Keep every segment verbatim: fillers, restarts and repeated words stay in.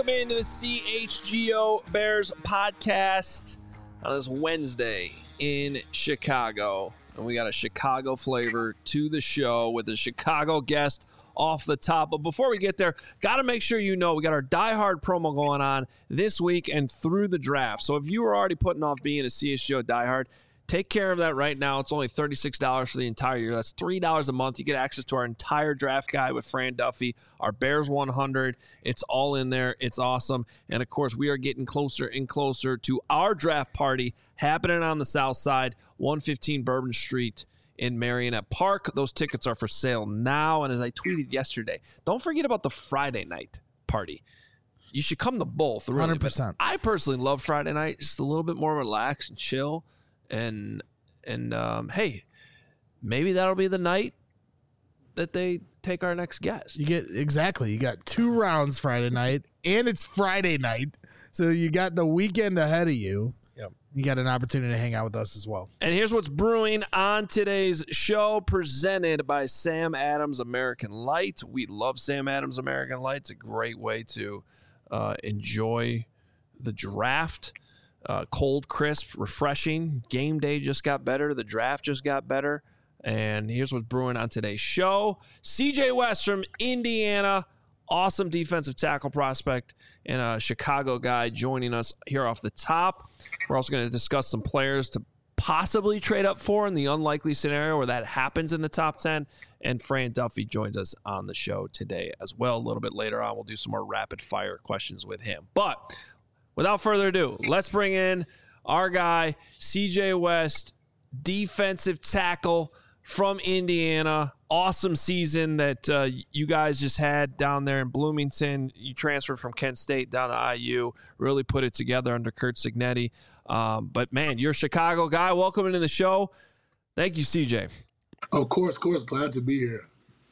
Welcome into the C H G O Bears podcast on this Wednesday in Chicago. And we got a Chicago flavor to the show with a Chicago guest off the top. But before we get there, got to make sure you know we got our Die Hard promo going on this week and through the draft. So if you were already putting off being a C H G O Die Hard, take care of that right now. It's only thirty-six dollars for the entire year. That's three dollars a month. You get access to our entire draft guide with Fran Duffy, our Bears one hundred. It's all in there. It's awesome. And, of course, we are getting closer and closer to our draft party happening on the south side, one fifteen Bourbon Street in Marionette Park. Those tickets are for sale now. And as I tweeted yesterday, don't forget about the Friday night party. You should come to both. Really. one hundred percent. But I personally love Friday night, just a little bit more relaxed and chill. And, and um, hey, maybe that'll be the night that they take our next guest. You get exactly. You got two rounds Friday night, and it's Friday night, so you got the weekend ahead of you. Yep. You got an opportunity to hang out with us as well. And here's what's brewing on today's show, presented by Sam Adams American Light. We love Sam Adams American Light. It's a great way to uh, enjoy the draft. Uh, cold, crisp, refreshing. Game day just got better. The draft just got better. And here's what's brewing on today's show. C J West from Indiana, awesome defensive tackle prospect and a Chicago guy joining us here off the top. We're also going to discuss some players to possibly trade up for in the unlikely scenario where that happens in the top ten. And Fran Duffy joins us on the show today as well. A little bit later on, we'll do some more rapid fire questions with him. But without further ado, let's bring in our guy, C J West, defensive tackle from Indiana. Awesome season that uh, you guys just had down there in Bloomington. You transferred from Kent State down to I U, really put it together under Curt Cignetti. Um, but, man, you're a Chicago guy. Welcome into the show. Thank you, C J. Of course, of course. Glad to be here.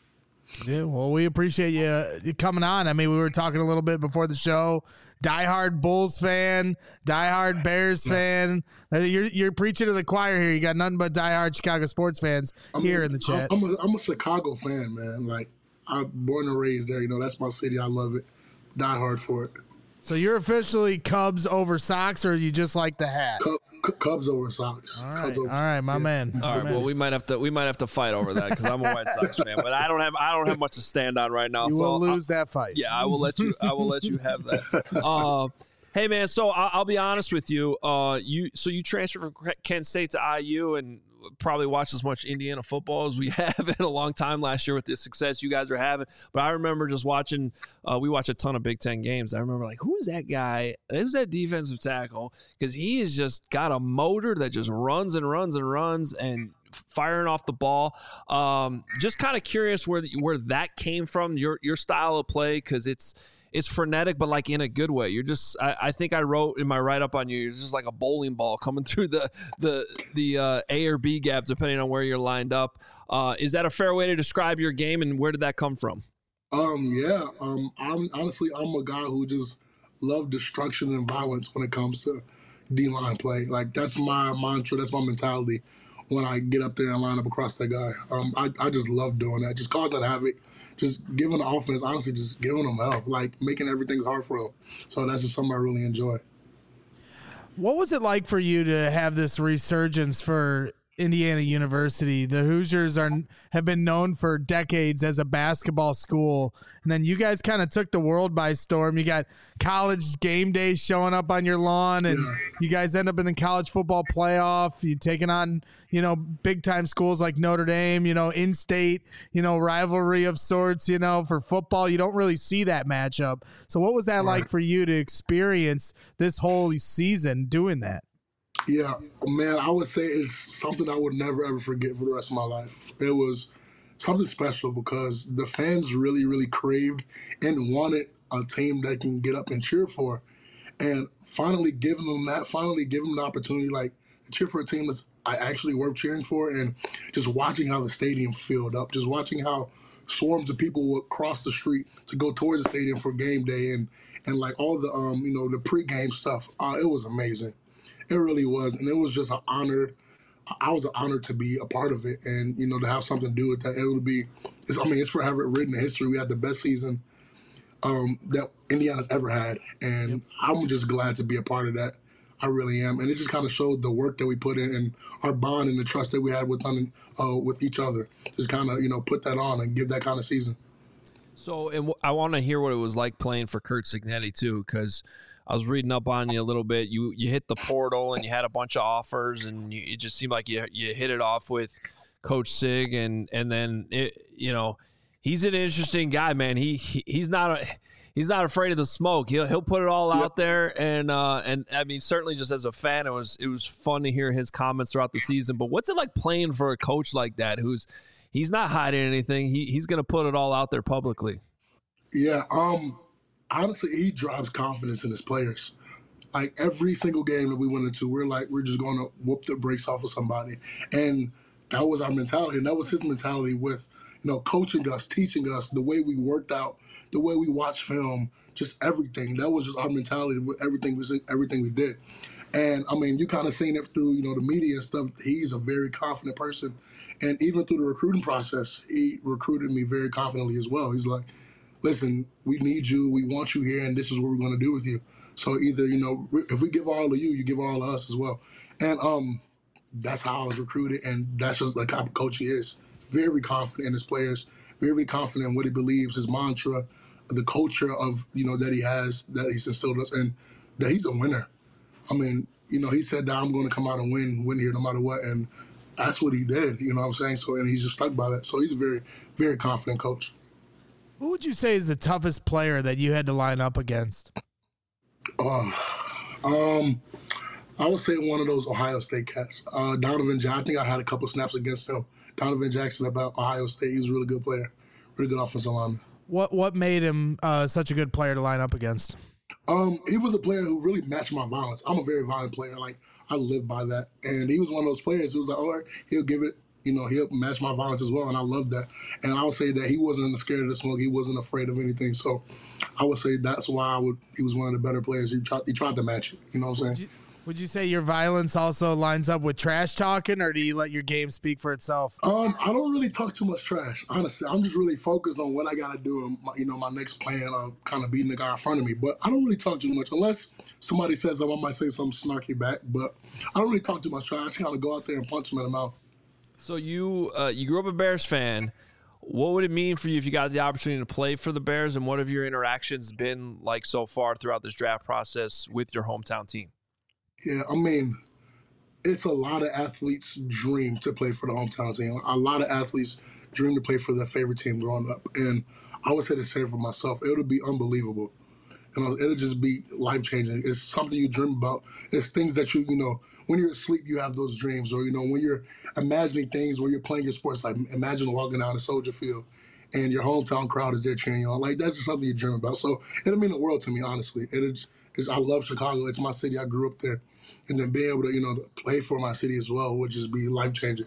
Yeah, well, we appreciate you, you coming on. I mean, we were talking a little bit before the show. Diehard Bulls fan, diehard Bears fan. You're you're preaching to the choir here. You got nothing but diehard Chicago sports fans I here mean, in the chat. I'm a, I'm a Chicago fan, man. Like, I'm born and raised there. You know, that's my city. I love it. Diehard for it. So you're officially Cubs over Sox, or you just like the hat? Cub, Cubs over Sox. All right, Cubs over all right, my yeah. man. All my right, man. well, we might have to we might have to fight over that because I'm a White Sox fan, but I don't have I don't have much to stand on right now. You so will I'll, lose that fight. Yeah, I will let you. I will let you have that. Uh, hey, man. So I'll, I'll be honest with you. Uh, you so you transferred from Kent State to I U and probably watched as much Indiana football as we have in a long time last year with the success you guys are having. But I remember just watching. Uh, we watch a ton of Big Ten games. I remember like, who's that guy? Who's that defensive tackle? Because he has just got a motor that just runs and runs and runs and firing off the ball. Um, just kind of curious where where that came from, your your style of play, because it's it's frenetic, but like in a good way. You're just I, I think I wrote in my write up on you, you're just like a bowling ball coming through the the the uh, A or B gap depending on where you're lined up. Uh, is that a fair way to describe your game, and where did that come from? Um, yeah. Um, I'm honestly I'm a guy who just love destruction and violence when it comes to D-line play. Like, that's my mantra. That's my mentality when I get up there and line up across that guy. Um, I, I just love doing that. Just causing havoc. Just giving the offense, honestly, just giving them help. Like, making everything hard for them. So that's just something I really enjoy. What was it like for you to have this resurgence for Indiana University? The Hoosiers are have been known for decades as a basketball school, and then you guys kind of took the world by storm. You got college game days showing up on your lawn, and Yeah. you guys end up in the college football playoff. You taking on, you know, big time schools like Notre Dame, you know, in-state, you know, rivalry of sorts. You know, for football, you don't really see that matchup. So, what was that Right. like for you to experience this whole season doing that? Yeah, man, I would say it's something I would never, ever forget for the rest of my life. It was something special because the fans really, really craved and wanted a team that can get up and cheer for. And finally giving them that, finally giving them the opportunity, like, to cheer for a team that's I actually worth cheering for, and just watching how the stadium filled up, just watching how swarms of people would cross the street to go towards the stadium for game day and, and like, all the, um, you know, the pregame stuff. Uh, it was amazing. It really was, and it was just an honor. I was honored to be a part of it, and you know, to have something to do with that. It would be, it's, I mean, it's forever written in history. We had the best season um, that Indiana's ever had. And yep. I'm just glad to be a part of that. I really am. And it just kind of showed the work that we put in and our bond and the trust that we had with, uh, with each other. Just kind of, you know, put that on and give that kind of season. So, and w- I want to hear what it was like playing for Curt Cignetti, too, because I was reading up on you a little bit. You you hit the portal and you had a bunch of offers, and you, it just seemed like you you hit it off with Coach Sig, and and then it, you know, he's an interesting guy, man. He, he he's not a he's not afraid of the smoke. He'll he'll put it all yep. out there, and uh and I mean, certainly just as a fan, it was it was fun to hear his comments throughout the season. But what's it like playing for a coach like that, who's he's not hiding anything. He he's gonna put it all out there publicly. Yeah. Um. Honestly, he drives confidence in his players. Like every single game that we went into, we're like, we're just going to whoop the brakes off of somebody. And that was our mentality. And that was his mentality with, you know, coaching us, teaching us, the way we worked out, the way we watched film, just everything. That was just our mentality with everything, everything we did. And, I mean, you kind of seen it through, you know, the media and stuff. He's a very confident person. And even through the recruiting process, he recruited me very confidently as well. He's like, listen, we need you, we want you here, and this is what we're going to do with you. So either, you know, if we give all of you, you give all of us as well. And um, that's how I was recruited, and that's just the type of coach he is. Very confident in his players, very confident in what he believes, his mantra, the culture of, you know, that he has, that he's instilled us, and that he's a winner. I mean, you know, he said that I'm going to come out and win, win here no matter what, and that's what he did, you know what I'm saying? So, and he's just stuck by that. So he's a very, very confident coach. Who would you say is the toughest player that you had to line up against? Uh, um, I would say one of those Ohio State cats. Uh, Donovan Jackson. I think I had a couple snaps against him. Donovan Jackson about Ohio State. He's a really good player. Really good offensive lineman. What what made him uh, such a good player to line up against? Um, he was a player who really matched my violence. I'm a very violent player. Like, I live by that. And he was one of those players who was like, all right, he'll give it. You know, he'll match my violence as well, and I love that. And I would say that he wasn't scared of the smoke. He wasn't afraid of anything. So I would say that's why I would. He was one of the better players. He tried, he tried to match it. You know what I'm saying? Would you, would you say your violence also lines up with trash talking, or do you let your game speak for itself? Um, I don't really talk too much trash, honestly. I'm just really focused on what I got to do and, my, you know, my next plan of kind of beating the guy in front of me. But I don't really talk too much unless somebody says something. I might say something snarky back. But I don't really talk too much trash. I just kind of go out there and punch him in the mouth. So you uh, you grew up a Bears fan. What would it mean for you if you got the opportunity to play for the Bears, and what have your interactions been like so far throughout this draft process with your hometown team? Yeah, I mean, it's a lot of athletes' dream to play for the hometown team. A lot of athletes dream to play for their favorite team growing up. And I would say the same for myself. It would be unbelievable. You know, it'll just be life-changing. It's something you dream about. It's things that you, you know, when you're asleep, you have those dreams. Or, you know, when you're imagining things where you're playing your sports, like imagine walking down a Soldier Field and your hometown crowd is there cheering you on. Like, that's just something you dream about. So it'll mean the world to me, honestly. It is, it's, I love Chicago. It's my city. I grew up there. And then being able to, you know, to play for my city as well would just be life-changing.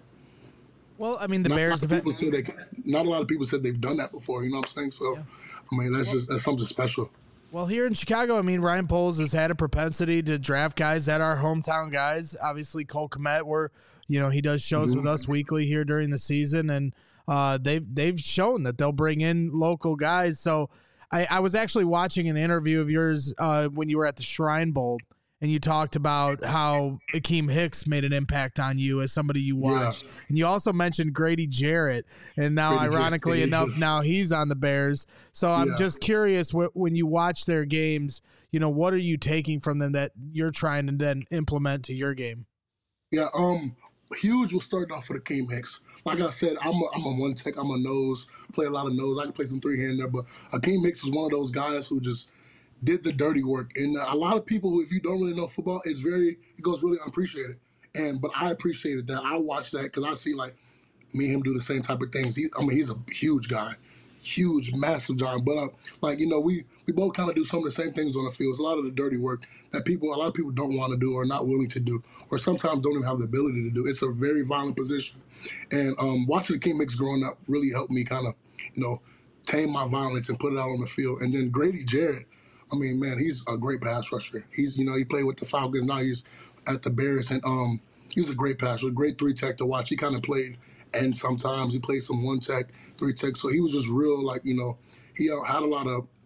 Well, I mean, the not Bears a lot of people said they, not a lot of people said they've done that before, you know what I'm saying? So, yeah. I mean, that's just that's something special. Well, here in Chicago, I mean, Ryan Poles has had a propensity to draft guys that are hometown guys. Obviously, Cole Kmet, where, you know, he does shows mm-hmm. with us weekly here during the season, and uh, they've, they've shown that they'll bring in local guys. So I, I was actually watching an interview of yours uh, when you were at the Shrine Bowl, and you talked about how Akeem Hicks made an impact on you as somebody you watched. Yeah. And you also mentioned Grady Jarrett. And now, Grady ironically Jarrett, enough, just, now he's on the Bears. So I'm yeah. just curious, wh- when you watch their games, you know, what are you taking from them that you're trying to then implement to your game? Yeah, um, huge will start off with Akeem Hicks. Like I said, I'm a, I'm a one tech, I'm a nose, play a lot of nose. I can play some three-hand there, but Akeem Hicks is one of those guys who just did the dirty work. And a lot of people who, if you don't really know football, it's very, it goes really unappreciated. And, but I appreciated that. I watched that because I see, like, me and him do the same type of things. He, I mean, he's a huge guy, huge, massive giant. But, uh, like, you know, we, we both kind of do some of the same things on the field. It's a lot of the dirty work that people, a lot of people don't want to do or not willing to do, or sometimes don't even have the ability to do. It's a very violent position. And um, watching Akeem Hicks growing up really helped me kind of, you know, tame my violence and put it out on the field. And then Grady Jarrett, I mean, man, he's a great pass rusher. He's, you know, he played with the Falcons. Now he's at the Bears, and um, he was a great passer, a great three tech to watch. He kind of played, and sometimes he played some one tech, three tech. So he was just real, like, you know, he uh, had a lot of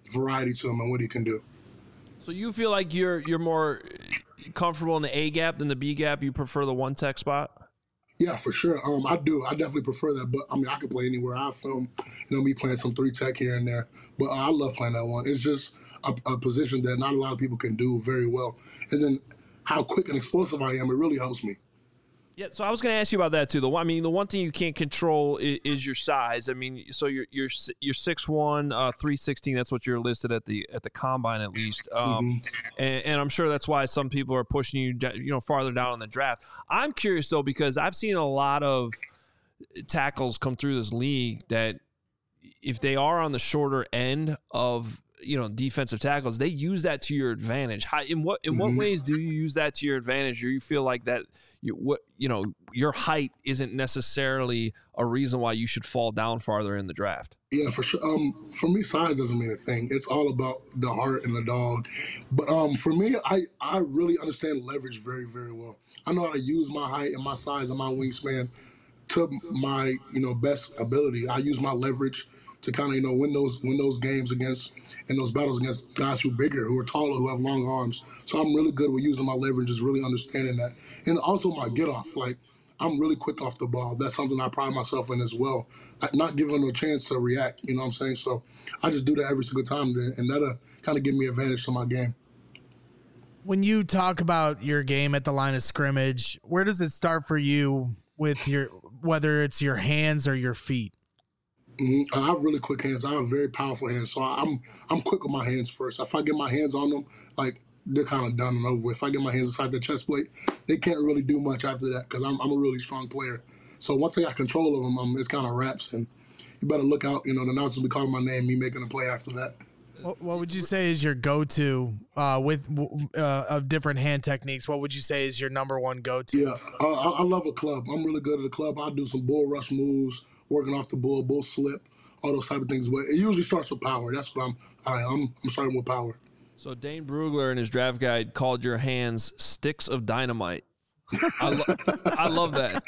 variety to him and what he can do. So you feel like you're you're more comfortable in the A gap than the B gap? You prefer the one tech spot? Yeah, for sure. Um, I do. I definitely prefer that. But I mean, I can play anywhere. I film, you know, me playing some three tech here and there. But uh, I love playing that one. It's just a, a position that not a lot of people can do very well. And then how quick and explosive I am, it really helps me. Yeah, so I was going to ask you about that too. The one, I mean, the one thing you can't control is, is your size. I mean, so you're you're you're six one, uh, three sixteen. That's what you're listed at the at the combine at least. Um, mm-hmm. and, and I'm sure that's why some people are pushing you, you know, farther down in the draft. I'm curious though, because I've seen a lot of tackles come through this league that if they are on the shorter end of, you know, defensive tackles, they use that to your advantage. How, in what in mm-hmm. what ways do you use that to your advantage, or you feel like that you what you know your height isn't necessarily a reason why you should fall down farther in the draft? Yeah, for sure. Um, for me, size doesn't mean a thing. It's all about the heart and the dog. But um, for me, I I really understand leverage very very well. I know how to use my height and my size and my wingspan to my you know best ability. I use my leverage to kind of you know win those win those games against. In those battles against guys who are bigger, who are taller, who have long arms. So I'm really good with using my leverage, just really understanding that. And also my get off. Like, I'm really quick off the ball. That's something I pride myself in as well. Like, not giving them a chance to react, you know what I'm saying? So I just do that every single time, and that'll kind of give me advantage to my game. When you talk about your game at the line of scrimmage, where does it start for you with your, whether it's your hands or your feet? Mm-hmm. I have really quick hands. I have very powerful hands, so I'm I'm quick with my hands first. If I get my hands on them, like they're kind of done and over with. If I get my hands inside the chest plate, they can't really do much after that because I'm I'm a really strong player. So once I got control of them, um, it's kind of wraps, and you better look out. You know, the announcers will be calling my name, me making a play after that. What, what would you say is your go-to uh, with uh, of different hand techniques? What would you say is your number one go-to? Yeah, uh, I, I love a club. I'm really good at a club. I'll do some bull rush moves, working off the bull, bull slip, all those type of things. But it usually starts with power. That's what I'm. I, I'm. I'm starting with power. So Dane Brugler in his draft guide called your hands sticks of dynamite. I, lo- I love that.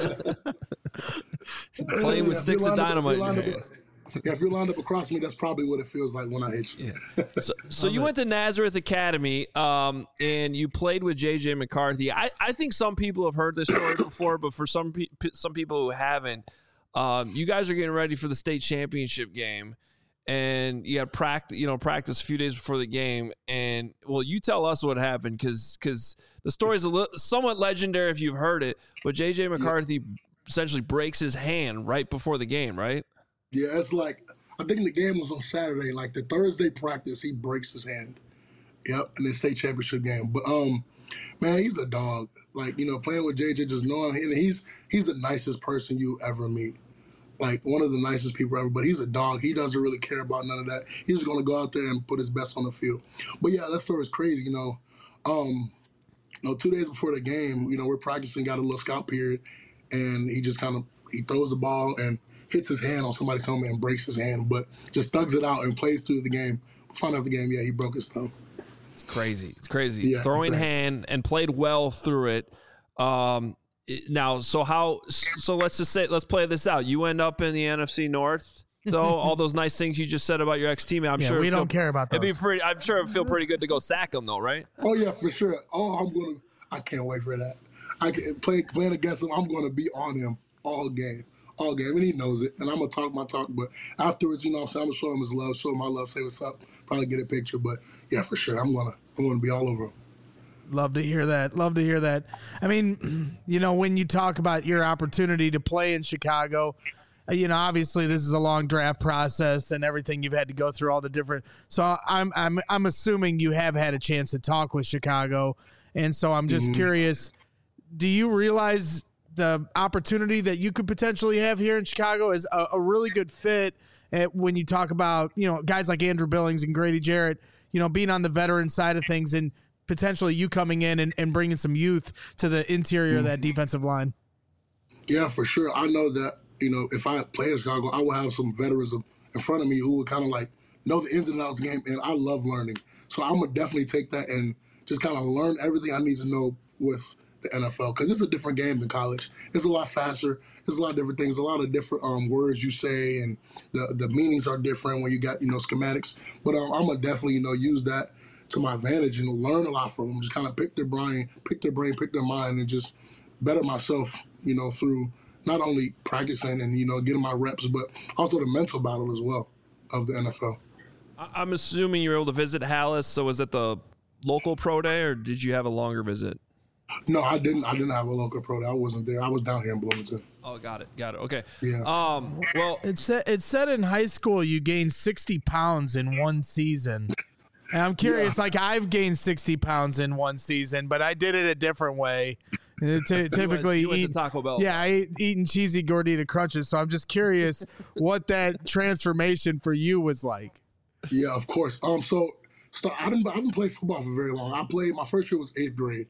Playing with yeah, sticks of dynamite in your hands. Yeah, if you're lined up across me, that's probably what it feels like when I hit you. Yeah. So, so you went to Nazareth Academy, um, and you played with J J McCarthy. I, I think some people have heard this story before, but for some pe- some people who haven't, um, you guys are getting ready for the state championship game, and you got practice, you know, practice a few days before the game. And well, you tell us what happened, because because the story is a little, somewhat legendary if you've heard it. But J J McCarthy yeah. essentially breaks his hand right before the game, right? Yeah, it's like, I think the game was on Saturday. Like the Thursday practice, he breaks his hand. Yep, in the state championship game. But um, man, he's a dog. Like, you know, playing with J J, just knowing him, he's he's the nicest person you ever meet. Like one of the nicest people ever. But he's a dog. He doesn't really care about none of that. He's just gonna go out there and put his best on the field. But yeah, that story is crazy. You know, um, you know, two days before the game, you know, we're practicing, got a little scout period, and he just kind of he throws the ball and hits his hand on somebody's helmet and breaks his hand, but just thugs it out and plays through the game. Find out the game, yeah, he broke his thumb. It's crazy. It's crazy. Yeah, Throwing right. hand and played well through it. Um, now, so how? So let's just say, let's play this out. You end up in the N F C North, though. All those nice things you just said about your ex teammate. I'm yeah, sure we don't feel, care about those. It'd be pretty. I'm sure it'd feel pretty good to go sack him, though, right? Oh yeah, for sure. Oh, I'm gonna. I can't wait for that. I can play playing against him. I'm gonna be on him all game. All game, and he knows it, and I'm going to talk my talk, but afterwards, you know what I'm saying, I'm going to show him his love, show him my love, say what's up, probably get a picture, but yeah, for sure, I'm going to I'm gonna be all over him. Love to hear that. Love to hear that. I mean, you know, when you talk about your opportunity to play in Chicago, you know, obviously this is a long draft process and everything you've had to go through, all the different, so I'm I'm I'm assuming you have had a chance to talk with Chicago, and so I'm just mm-hmm. curious, do you realize the opportunity that you could potentially have here in Chicago is a, a really good fit at, when you talk about, you know, guys like Andrew Billings and Grady Jarrett, you know, being on the veteran side of things and potentially you coming in and, and bringing some youth to the interior mm-hmm. of that defensive line. Yeah, for sure. I know that, you know, if I play in Chicago, I will have some veterans in front of me who would kind of like know the ins and outs of the game, and I love learning. So I'm going to definitely take that and just kind of learn everything I need to know with the N F L because it's a different game than college. It's a lot faster. There's a lot of different things, a lot of different um, words you say, and the the meanings are different when you got, you know, schematics. But um, I'm gonna definitely, you know, use that to my advantage and learn a lot from them. Just kind of pick their brain, pick their brain, pick their mind, and just better myself, you know, through not only practicing and, you know, getting my reps, but also the mental battle as well of the N F L. I'm assuming you were able to visit Hallis. So was it the local pro day, or did you have a longer visit? No, I didn't. I didn't have a local pro day. I wasn't there. I was down here in Bloomington. Oh, got it. Got it. Okay. Yeah. Um. Well, It said it said in high school you gained sixty pounds in one season. And I'm curious, yeah. like I've gained sixty pounds in one season, but I did it a different way. T- typically, you went, you eat, went to Taco Bell. Yeah, I ate eating cheesy gordita crunches. So I'm just curious what that transformation for you was like. Yeah, of course. Um. So, so I didn't. I haven't played football for very long. I played. My first year was eighth grade.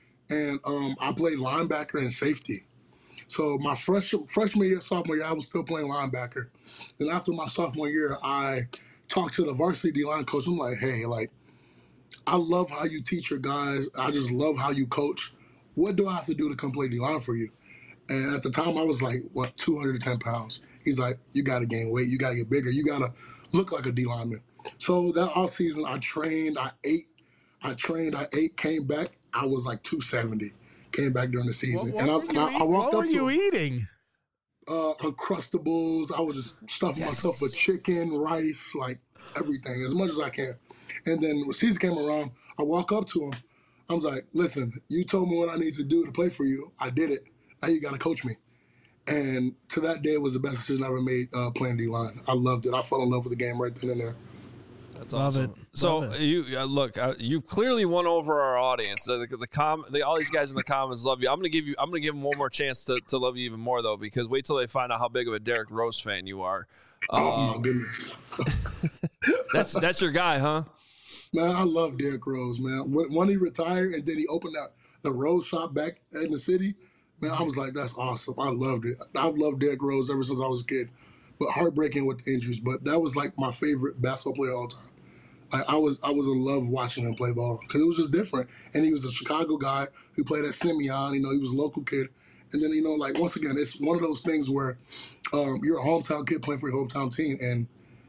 And um, I played linebacker and safety. So my fresh, freshman year, sophomore year, I was still playing linebacker. Then after my sophomore year, I talked to the varsity D-line coach. I'm like, hey, like, I love how you teach your guys. I just love how you coach. What do I have to do to come play D-line for you? And at the time, I was like, what, two hundred ten pounds. He's like, you got to gain weight. You got to get bigger. You got to look like a D-lineman. So that offseason, I trained, I ate, I trained, I ate, came back. I was like two seventy. Came back during the season, what, and, I, what and I, I walked what up were to you him, eating? Uh, Uncrustables. I was just stuffing Yes. myself with chicken, rice, like everything, as much as I can. And then when season came around, I walk up to him. I was like, "Listen, you told me what I need to do to play for you. I did it. Now you got to coach me." And to that day, it was the best decision I ever made uh, playing D-line. I loved it. I fell in love with the game right then and there. That's Love awesome. it. So Love it. you uh, look, uh, you've clearly won over our audience. Uh, the, the com, the, all these guys in the comments love you. I'm gonna give you, I'm gonna give them one more chance to, to love you even more though, because wait till they find out how big of a Derrick Rose fan you are. Oh Um, my goodness. that's that's your guy, huh? Man, I love Derrick Rose, man. When, when he retired and then he opened that the Rose shop back in the city, man, I was like, that's awesome. I loved it. I've loved Derrick Rose ever since I was a kid. But heartbreaking with the injuries. But that was like my favorite basketball player of all time. Like I was, I was in love watching him play ball because it was just different. And he was a Chicago guy who played at Simeon. You know, he was a local kid. And then, you know, like once again, it's one of those things where um, you're a hometown kid playing for your hometown team, and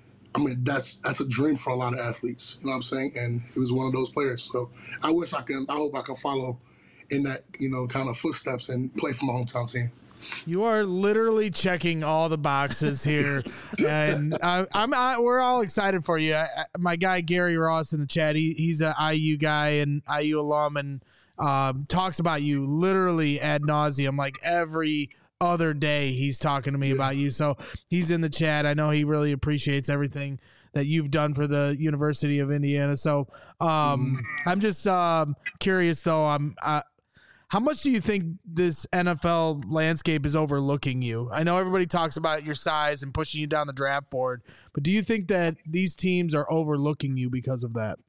I mean that's that's a dream for a lot of athletes. You know what I'm saying? And he was one of those players. So I wish I can. I hope I can follow in that, you know, kind of footsteps and play for my hometown team. You are literally checking all the boxes here, and I, I'm I, we're all excited for you. I, I, my guy Gary Ross in the chat, he, he's an I U guy and I U alum, and um, talks about you literally ad nauseum, like every other day. He's talking to me yeah. about you, so he's in the chat. I know he really appreciates everything that you've done for the University of Indiana. So um, mm. I'm just um, curious, though. I'm. I, How much do you think this N F L landscape is overlooking you? I know everybody talks about your size and pushing you down the draft board, but do you think that these teams are overlooking you because of that?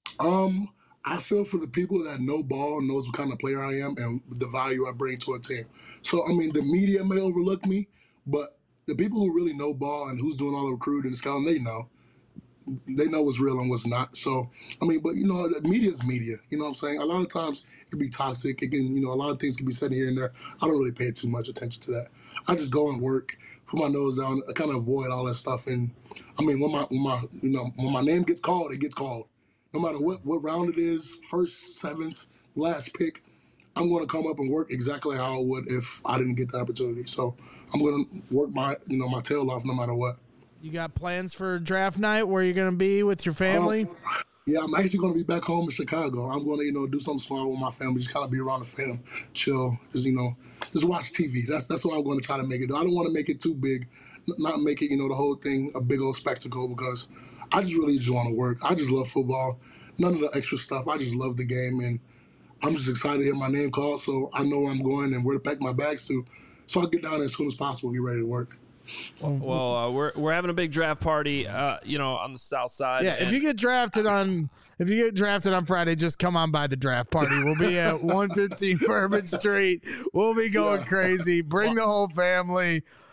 Um, I feel for the people that know ball and knows what kind of player I am and the value I bring to a team. So, I mean, the media may overlook me, but the people who really know ball and who's doing all the recruiting and scouting, they know. They know what's real and what's not. So, I mean, but, you know, the media is media. You know what I'm saying? A lot of times it can be toxic. It can, you know, a lot of things can be said here and there. I don't really pay too much attention to that. I just go and work, put my nose down, I kind of avoid all that stuff. And, I mean, when my, when my, you know, when my name gets called, it gets called. No matter what, what round it is, first, seventh, last pick, I'm going to come up and work exactly how I would if I didn't get the opportunity. So I'm going to work my, you know, my tail off no matter what. You got plans for draft night where you're going to be with your family? Um, yeah, I'm actually going to be back home in Chicago. I'm going to, you know, do something small with my family, just kind of be around the fam, chill, just, you know, just watch T V. That's that's what I'm going to try to make it. I don't want to make it too big, not make it, you know, the whole thing a big old spectacle, because I just really just want to work. I just love football. None of the extra stuff. I just love the game, and I'm just excited to hear my name called, so I know where I'm going and where to pack my bags to. So I'll get down there as soon as possible and get ready to work. Well, uh, we're we're having a big draft party, uh, you know, on the south side. Yeah, if you get drafted on if you get drafted on Friday, just come on by the draft party. We'll be at one fifteen Bourbon Street. We'll be going Yeah. crazy. Bring the whole family.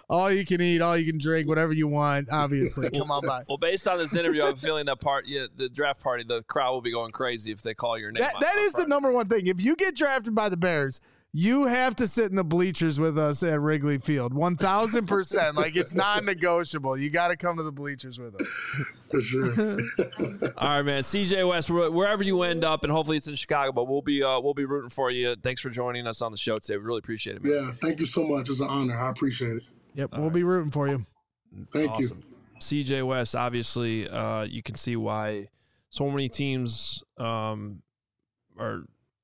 all you can eat, all you can drink, whatever you want. Obviously, come on by. Well, based on this interview, I'm feeling that part. Yeah, the draft party, the crowd will be going crazy if they call your name. That, on, that on is Friday. the number one thing. If you get drafted by the Bears, you have to sit in the bleachers with us at Wrigley Field. one thousand percent. Like, it's non-negotiable. You got to come to the bleachers with us. For sure. All right, man. C J West, wherever you end up, and hopefully it's in Chicago, but we'll be uh, we'll be rooting for you. Thanks for joining us on the show today. We really appreciate it, man. Yeah, thank you so much. It's an honor. I appreciate it. Yep, All we'll right. be rooting for you. Thank awesome. you. C J West, obviously, uh, you can see why so many teams um, are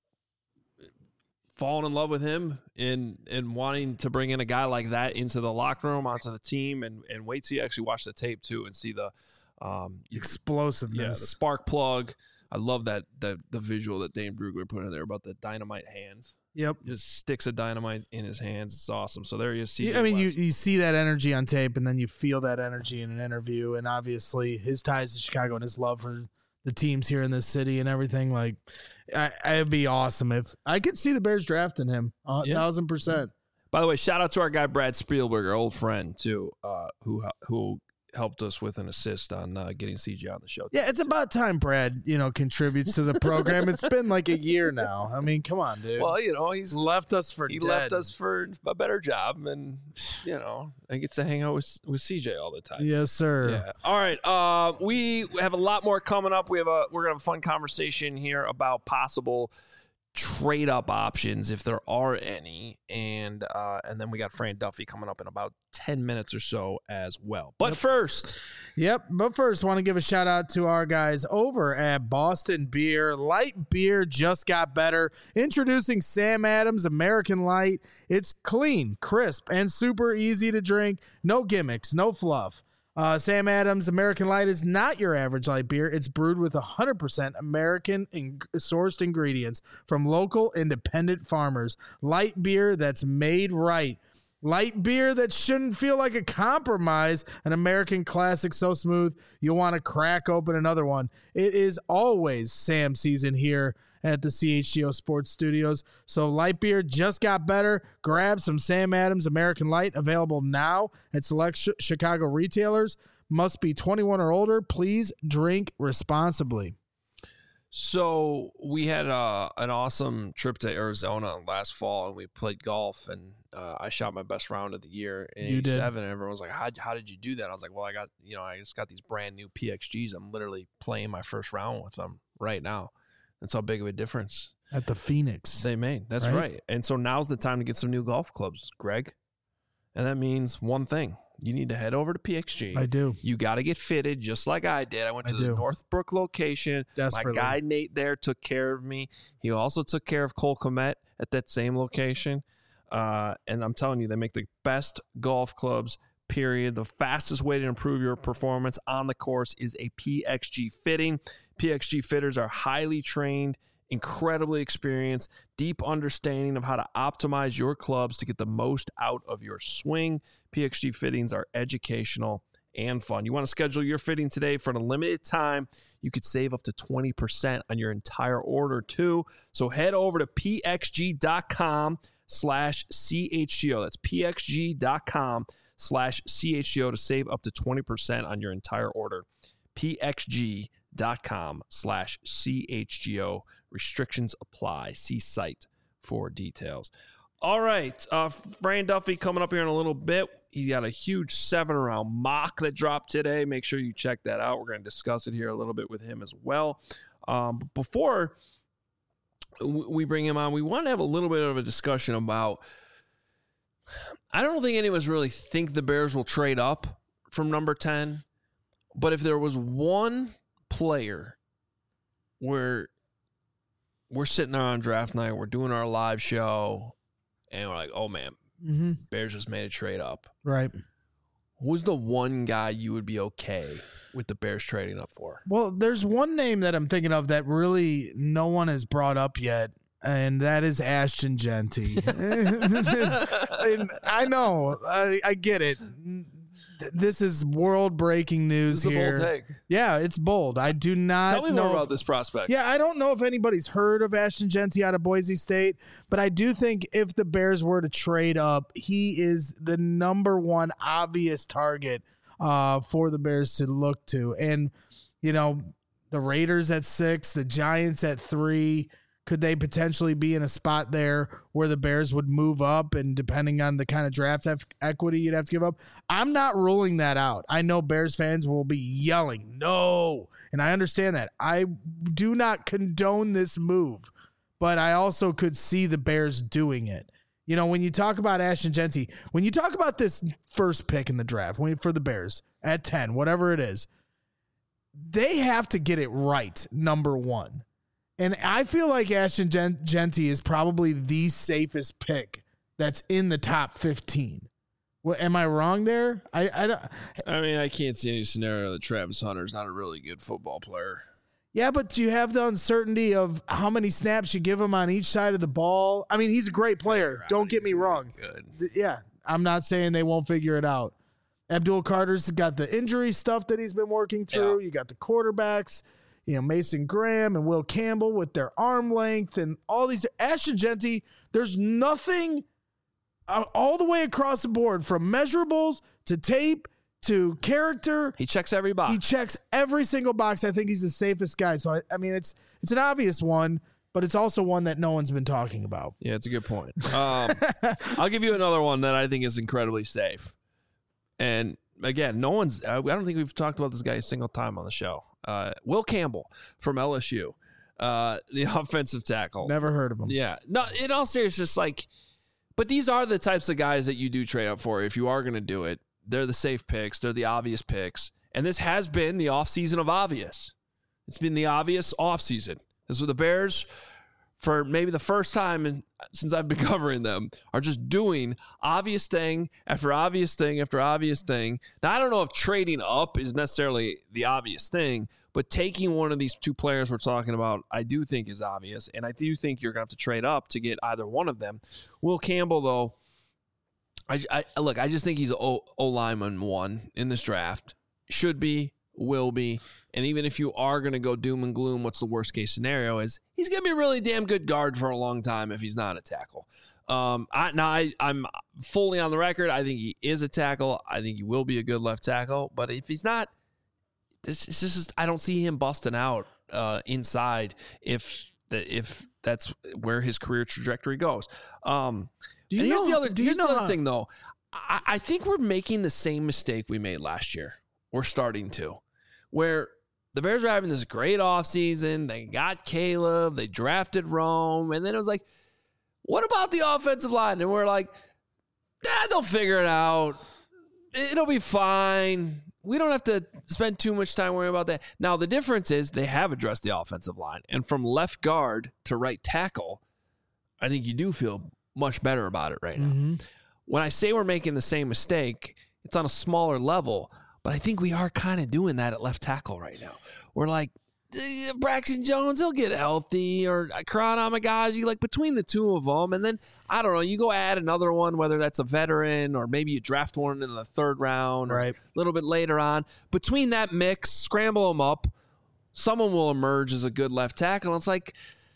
falling in love with him and and wanting to bring in a guy like that into the locker room, onto the team, and, and wait till you actually watch the tape, too, and see the um, Explosiveness. yeah, the spark plug. I love that the the visual that Dane Brugler put in there about the dynamite hands. Yep. Just sticks of dynamite in his hands. It's awesome. So there you see. I mean, you, you see that energy on tape, and then you feel that energy in an interview, and obviously his ties to Chicago and his love for the teams here in this city and everything. Like, I, it'd be awesome if I could see the Bears drafting him a Yeah. thousand percent. By the way, shout out to our guy Brad Spielberg, our old friend too, uh, who who helped us with an assist on uh, getting C J on the show. Yeah, it's about time Brad, you know, contributes to the program. It's been like a year now. I mean, come on, dude. Well, you know, he's He's left us for he dead. left us for a better job, and you know, he gets to hang out with with C J all the time. Yes, sir. Yeah. All right. Uh, we have a lot more coming up. We have a we're gonna have a fun conversation here about possible trade up options if there are any, and uh, and then we got Fran Duffy coming up in about ten minutes or so as well. But Yep. first, Yep. But first, want to give a shout out to our guys over at Boston Beer. Light beer just got better. Introducing Sam Adams American Light. It's clean, crisp, and super easy to drink. No gimmicks, no fluff. Uh, Sam Adams American Light is not your average light beer. It's brewed with one hundred percent American in- sourced ingredients from local independent farmers. Light beer that's made right. Light beer that shouldn't feel like a compromise. An American classic so smooth you'll want to crack open another one. It is always Sam season here at the C H G O Sports Studios. So light beer just got better. Grab some Sam Adams American Light, available now at select sh- Chicago retailers. Must be twenty-one or older. Please drink responsibly. so we had uh, an awesome trip to Arizona last fall, and we played golf, and uh, I shot my best round of the year in You did. eighty-seven. And everyone was like, how, how did you do that? I was like, well, I got, you know, I just got these brand new P X Gs. I'm literally playing my first round with them right now. That's how big of a difference At the Phoenix. they made. That's Right. right. And so now's the time to get some new golf clubs, Greg. And that means one thing. You need to head over to P X G. I do. You got to get fitted just like I did. I went I to the do. Northbrook location. Desperately. My guy Nate there took care of me. He also took care of Cole Komet at that same location. Uh, and I'm telling you, they make the best golf clubs, period. The fastest way to improve your performance on the course is a P X G fitting. P X G fitters are highly trained, incredibly experienced, deep understanding of how to optimize your clubs to get the most out of your swing. P X G fittings are educational and fun. You want to schedule your fitting today for a limited time. You could save up to twenty percent on your entire order too. So head over to pxg.com slash CHGO. That's pxg.com slash CHGO to save up to twenty percent on your entire order. pxg.com slash CHGO. Restrictions apply. See site for details. All right. Uh, Fran Duffy coming up here in a little bit. He got a huge seven round mock that dropped today. Make sure you check that out. We're going to discuss it here a little bit with him as well. Um, but before we bring him on, we want to have a little bit of a discussion about, I don't think any of us really think the Bears will trade up from number ten. But if there was one player where we're sitting there on draft night, we're doing our live show, and we're like, oh, man, Mm-hmm. Bears just made a trade up. Right. Who's the one guy you would be okay with the Bears trading up for? Well, there's one name that I'm thinking of that really no one has brought up yet, and that is Ashton Genty. And I know, I, I get it. this is world breaking news This is here. a bold take. Yeah, it's bold. I do not Tell me know more if- about this prospect. Yeah, I don't know if anybody's heard of Ashton Genty out of Boise State, but I do think if the Bears were to trade up, he is the number one obvious target uh, for the Bears to look to. And, you know, the Raiders at six, the Giants at three. Could they potentially be in a spot there where the Bears would move up, and depending on the kind of draft ef- equity you'd have to give up? I'm not ruling that out. I know Bears fans will be yelling, no, and I understand that. I do not condone this move, but I also could see the Bears doing it. You know, when you talk about Ashton Genty, when you talk about this first pick in the draft when, for the Bears at ten, whatever it is, they have to get it right, number one. And I feel like Ashton Gen- Genty is probably the safest pick that's in the top fifteen. What, am I wrong there? I, I don't. I mean, I can't see any scenario that Travis Hunter's not a really good football player. Yeah, but you have the uncertainty of how many snaps you give him on each side of the ball. I mean, he's a great player. Don't get me wrong. Good. Yeah, I'm not saying they won't figure it out. Abdul Carter's got the injury stuff that he's been working through. Yeah. You got the quarterbacks. You know, Mason Graham and Will Campbell with their arm length and all these. Ashton Genty, there's nothing uh, all the way across the board from measurables to tape to character. He checks every box. He checks every single box. I think he's the safest guy. So, I, I mean, it's it's an obvious one, but it's also one that no one's been talking about. Yeah, it's a good point. Um, I'll give you another one that I think is incredibly safe. And again, no one's, I don't think we've talked about this guy a single time on the show. Uh, Will Campbell from L S U, uh, the offensive tackle. Never heard of him. Yeah. No, in all seriousness, like, but these are the types of guys that you do trade up for if you are going to do it. They're the safe picks. They're the obvious picks. And this has been the offseason of obvious. It's been the obvious offseason. This was the Bears, for maybe the first time in, since I've been covering them, are just doing obvious thing after obvious thing after obvious thing. Now, I don't know if trading up is necessarily the obvious thing, but taking one of these two players we're talking about, I do think is obvious, and I do think you're going to have to trade up to get either one of them. Will Campbell, though, I, I look, I just think he's O, o lineman one in this draft. Should be, will be. And even if you are going to go doom and gloom, what's the worst case scenario is he's going to be a really damn good guard for a long time if he's not a tackle. Um, I, now, I, I'm fully on the record. I think he is a tackle. I think he will be a good left tackle. But if he's not, this is just, I don't see him busting out uh, inside if the, if that's where his career trajectory goes. Um, Do you and here's know, the other, do you here's know the other how- thing, though. I, I think we're making the same mistake we made last year. We're starting to. Where the Bears are having this great offseason. They got Caleb. They drafted Rome. And then it was like, what about the offensive line? And we're like, eh, they'll figure it out. It'll be fine. We don't have to spend too much time worrying about that. Now, the difference is they have addressed the offensive line. And from left guard to right tackle, I think you do feel much better about it right now. Mm-hmm. When I say we're making the same mistake, it's on a smaller level. But I think we are kind of doing that at left tackle right now. We're like, eh, Braxton Jones, he'll get healthy, or Karan Amagaji, like between the two of them. And then, I don't know, you go add another one, whether that's a veteran or maybe you draft one in the third round or Right. a little bit later on. Between that mix, scramble them up, someone will emerge as a good left tackle. And it's like,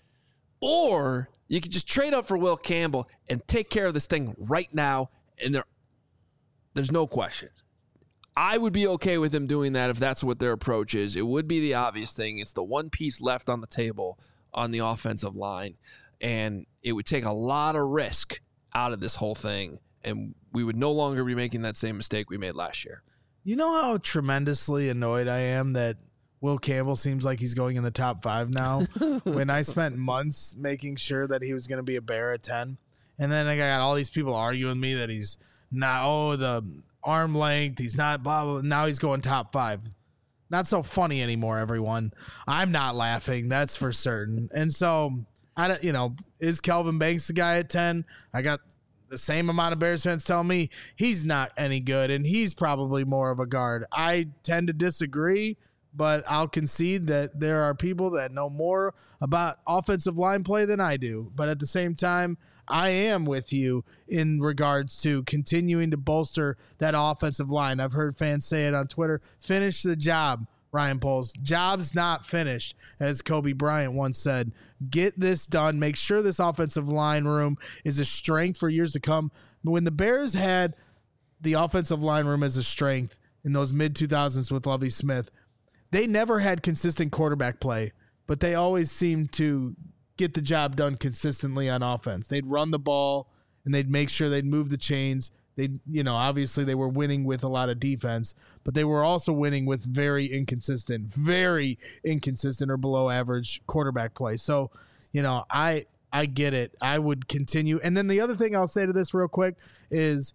or you could just trade up for Will Campbell and take care of this thing right now, and there, there's no questions. I would be okay with them doing that if that's what their approach is. It would be the obvious thing. It's the one piece left on the table on the offensive line, and it would take a lot of risk out of this whole thing, and we would no longer be making that same mistake we made last year. You know how tremendously annoyed I am that Will Campbell seems like he's going in the top five now when I spent months making sure that he was going to be a Bear at ten. And then I got all these people arguing with me that he's not, oh, the arm length, he's not, blah, blah. Now he's going top five. Not so funny anymore, everyone. I'm not laughing. That's for certain. And so, I don't, you know, is Kelvin Banks the guy at ten? I got the same amount of Bears fans telling me he's not any good and he's probably more of a guard. I tend to disagree, but I'll concede that there are people that know more about offensive line play than I do. But at the same time, I am with you in regards to continuing to bolster that offensive line. I've heard fans say it on Twitter. Finish the job, Ryan Poles. Job's not finished, as Kobe Bryant once said. Get this done. Make sure this offensive line room is a strength for years to come. When the Bears had the offensive line room as a strength in those mid two thousands with Lovie Smith, they never had consistent quarterback play, but they always seemed to get the job done consistently on offense. They'd run the ball and they'd make sure they'd move the chains. They, you know, obviously they were winning with a lot of defense, but they were also winning with very inconsistent, very inconsistent or below average quarterback play. So, you know, I, I get it. I would continue. And then the other thing I'll say to this real quick is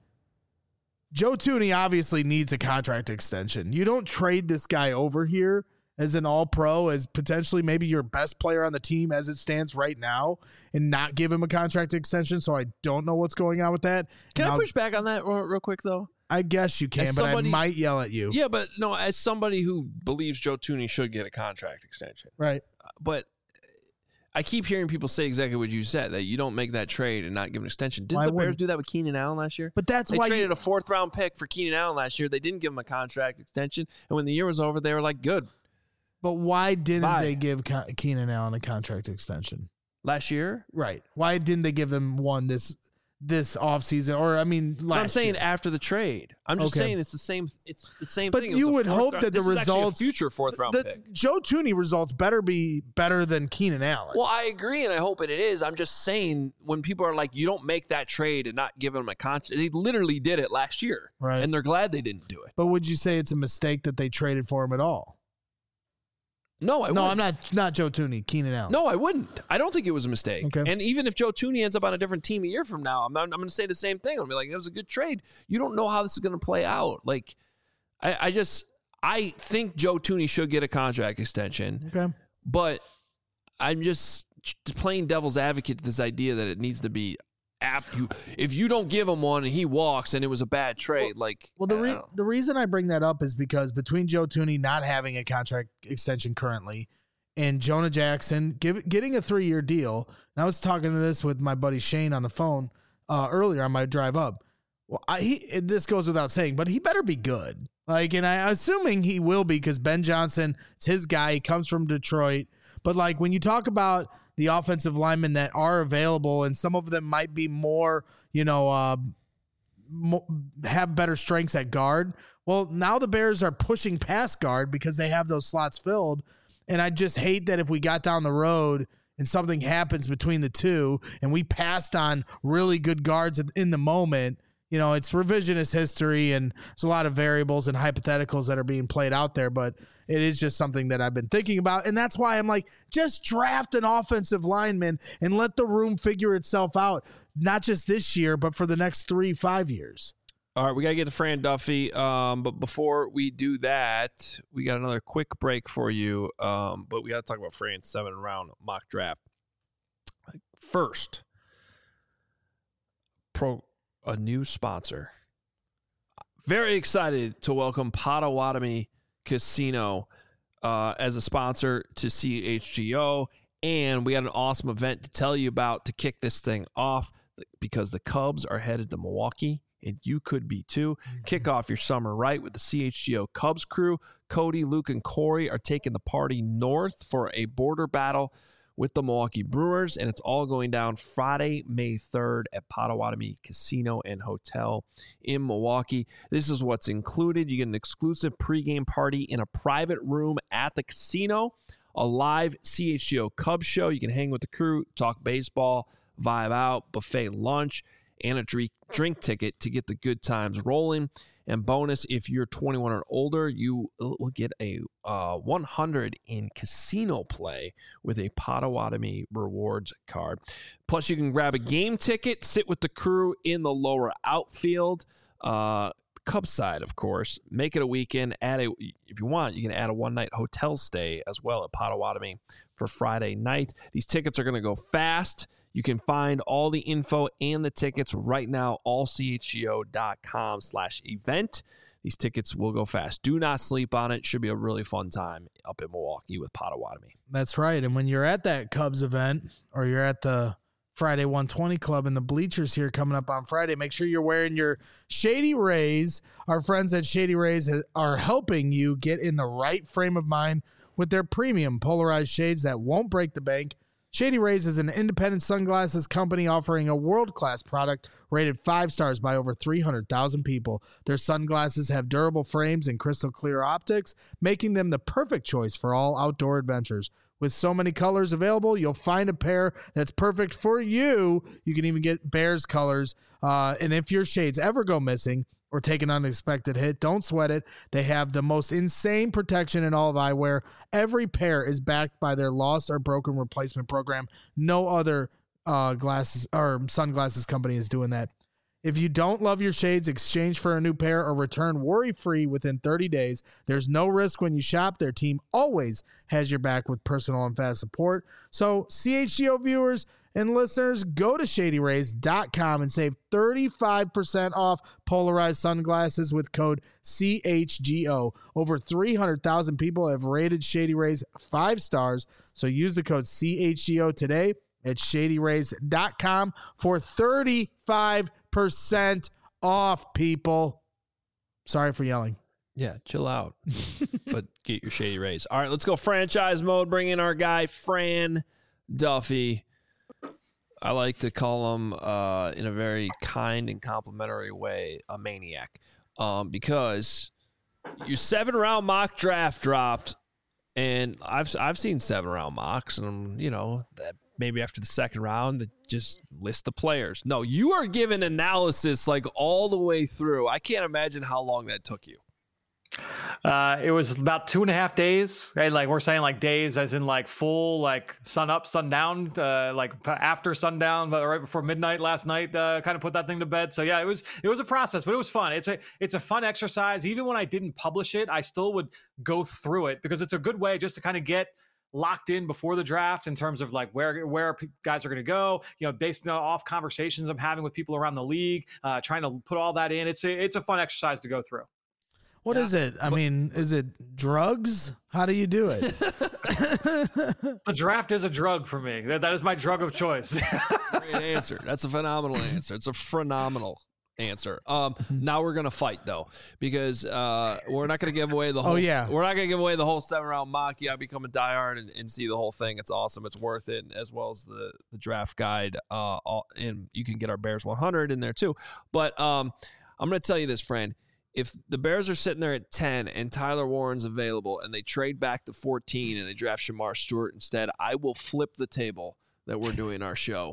Joe Thuney obviously needs a contract extension. You don't trade this guy over here as an all-pro, as potentially maybe your best player on the team as it stands right now, and not give him a contract extension. So I don't know what's going on with that. Can and I I'll, push back on that real, real quick, though? I guess you can, As but somebody- I might yell at you. Yeah, but no, as somebody who believes Joe Thuney should get a contract extension. Right. But I keep hearing people say exactly what you said, that you don't make that trade and not give an extension. Didn't Why the Bears wouldn't- do that with Keenan Allen last year? But that's They why traded you, a fourth round pick for Keenan Allen last year. They didn't give him a contract extension. And when the year was over, they were like, good. but why didn't Bye. they give Ke- Keenan Allen a contract extension? Last year? Right. Why didn't they give them one this this offseason? Or I mean, last No, I'm saying year? after the trade. I'm just Okay. saying it's the same. It's the same But thing. It was you a would fourth hope round- that the this is actually a results- future fourth round the pick. Joe Thuney results better be better than Keenan Allen. Well, I agree, and I hope it is. I'm just saying when people are like, you don't make that trade and not give them a contract. They literally did it last year, Right. and they're glad they didn't do it. But would you say it's a mistake that they traded for him at all? No, I no, wouldn't. I'm not. Not Joe Thuney, Keenan Allen. No, I wouldn't. I don't think it was a mistake. Okay. And even if Joe Thuney ends up on a different team a year from now, I'm, I'm going to say the same thing. I'll be like, it was a good trade. You don't know how this is going to play out. Like, I, I just, I think Joe Thuney should get a contract extension, Okay. but I'm just playing devil's advocate to this idea that it needs to be app. You, if you don't give him one and he walks and it was a bad trade, like, Well, the I re- don't know. the reason I bring that up is because between Joe Thuney not having a contract extension currently and Jonah Jackson give, getting a three year deal, and I was talking to this with my buddy Shane on the phone uh, earlier on my drive up. Well, I, he this goes without saying, but he better be good. Like, and I assuming he will be because Ben Johnson, it's his guy. He comes from Detroit. But like when you talk about the offensive linemen that are available, and some of them might be more, you know, uh, mo- have better strengths at guard. Well, now the Bears are pushing past guard because they have those slots filled. And I just hate that if we got down the road and something happens between the two and we passed on really good guards in the moment, you know, it's revisionist history and there's a lot of variables and hypotheticals that are being played out there, but it is just something that I've been thinking about. And that's why I'm like, just draft an offensive lineman and let the room figure itself out, not just this year, but for the next three, five years. All right, we got to get to Fran Duffy. Um, but before we do that, we got another quick break for you. Um, but we got to talk about Fran's seven round mock draft. First, pro a new sponsor. Very excited to welcome Potawatomi Casino uh, as a sponsor to C H G O. And we got an awesome event to tell you about to kick this thing off because the Cubs are headed to Milwaukee. And you could be too. Kick off your summer right with the C H G O Cubs crew. Cody, Luke, and Corey are taking the party north for a border battle with the Milwaukee Brewers, and it's all going down Friday, May third at Potawatomi Casino and Hotel in Milwaukee. This is what's included. You get an exclusive pregame party in a private room at the casino, a live C H G O Cubs show. You can hang with the crew, talk baseball, vibe out, buffet lunch, and a drink, drink ticket to get the good times rolling. And bonus, if you're twenty-one or older, you will get a uh, one hundred in casino play with a Potawatomi rewards card. Plus, you can grab a game ticket, sit with the crew in the lower outfield. Uh, Cubs side, of course. Make it a weekend. Add a, if you want, you can add a one-night hotel stay as well at Potawatomi for Friday night. These tickets are going to go fast. You can find all the info and the tickets right now, all C H G O dot com slash event. These tickets will go fast. Do not sleep on it. Should be a really fun time up in Milwaukee with Potawatomi. That's right. And when you're at that Cubs event or you're at the Friday one twenty Club in the bleachers here coming up on Friday. Make sure you're wearing your Shady Rays. Our friends at Shady Rays are helping you get in the right frame of mind with their premium polarized shades that won't break the bank. Shady Rays is an independent sunglasses company offering a world-class product rated five stars by over three hundred thousand people. Their sunglasses have durable frames and crystal clear optics, making them the perfect choice for all outdoor adventures. With so many colors available, you'll find a pair that's perfect for you. You can even get Bears colors. Uh, and if your shades ever go missing or take an unexpected hit, don't sweat it. They have the most insane protection in all of eyewear. Every pair is backed by their lost or broken replacement program. No other uh, glasses or sunglasses company is doing that. If you don't love your shades, exchange for a new pair or return worry-free within thirty days. There's no risk when you shop. Their team always has your back with personal and fast support. So C H G O viewers and listeners, go to shady rays dot com and save thirty-five percent off polarized sunglasses with code C H G O. Over three hundred thousand people have rated Shady Rays five stars, so use the code C H G O today at shady rays dot com for thirty-five percent off, people. Sorry for yelling. Yeah, chill out. But get your Shady Rays. All right, let's go franchise mode. Bring in our guy, Fran Duffy. I like to call him, uh, in a very kind and complimentary way, a maniac. Um, because your seven-round mock draft dropped, and I've I've seen seven-round mocks, and, you know, that maybe after the second round, they just list the players. No, you are giving analysis, like, all the way through. I can't imagine how long that took you. Uh, it was about two and a half days. And like we're saying, like days as in like full, like sun up, sun down, uh, like after sundown, but right before midnight last night, uh, kind of put that thing to bed. So yeah, it was, it was a process, but it was fun. It's a, it's a fun exercise. Even when I didn't publish it, I still would go through it because it's a good way just to kind of get locked in before the draft in terms of like where where guys are going to go, you know, based off conversations I'm having with people around the league, uh, trying to put all that in. It's a, it's a fun exercise to go through. What yeah. is it? I mean, is it drugs? How do you do it? The draft is a drug for me. That, that is my drug of choice. Great answer. That's a phenomenal answer. It's a phenomenal answer. Um, now we're gonna fight though, because uh, we're not gonna give away the whole. Oh yeah, we're not gonna give away the whole seven round mock. Yeah, become a diehard and, and see the whole thing. It's awesome. It's worth it, as well as the the draft guide. Uh, all, and you can get our Bears one hundred in there too. But um, I'm gonna tell you this, friend. If the Bears are sitting there at ten and Tyler Warren's available and they trade back to fourteen and they draft Shamar Stewart instead, I will flip the table that we're doing our show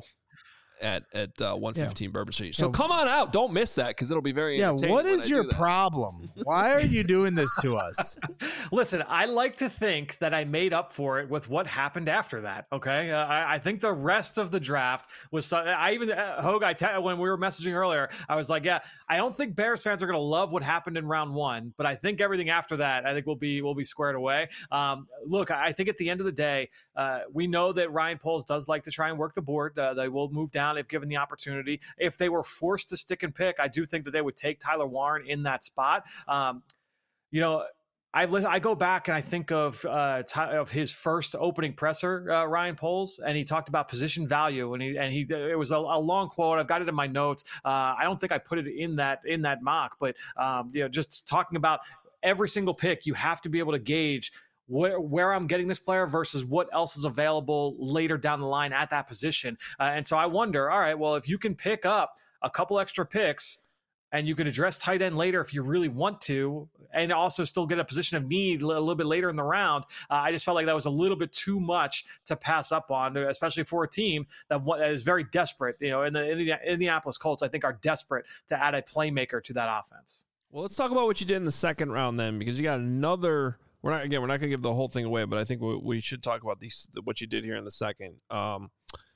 at at uh, one fifteen yeah. Bourbon Street. So yeah. come on out. Don't miss that because it'll be very yeah, entertaining. What is your problem? Why are you doing this to us? Listen, I like to think that I made up for it with what happened after that, okay? Uh, I, I think the rest of the draft was... I even... Uh, Hogue, I te- when we were messaging earlier, I was like, yeah, I don't think Bears fans are going to love what happened in round one, but I think everything after that, I think we'll be we'll be squared away. Um, look, I think at the end of the day, uh, we know that Ryan Poles does like to try and work the board. Uh, they will move down if given the opportunity. If they were forced to stick and pick, I do think that they would take Tyler Warren in that spot. Um, you know, I I go back and I think of uh, of his first opening presser, uh, Ryan Poles, and he talked about position value, and he and he it was a, a long quote. I've got it in my notes. Uh, I don't think I put it in that in that mock, but um, you know, just talking about every single pick, you have to be able to gauge where, where I'm getting this player versus what else is available later down the line at that position. Uh, and so I wonder, all right, well, if you can pick up a couple extra picks and you can address tight end later if you really want to, and also still get a position of need a little bit later in the round, uh, I just felt like that was a little bit too much to pass up on, especially for a team that is very desperate. You know, in the Indianapolis Colts, I think, are desperate to add a playmaker to that offense. Well, let's talk about what you did in the second round then, because you got another... We're not again. We're not going to give the whole thing away, but I think we, we should talk about these. What you did here in the second. Um,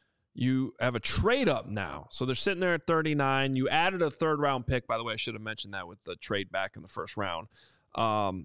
you have a trade up now, so they're sitting there at thirty-nine. You added a third round pick, by the way. I should have mentioned that with the trade back in the first round. Um,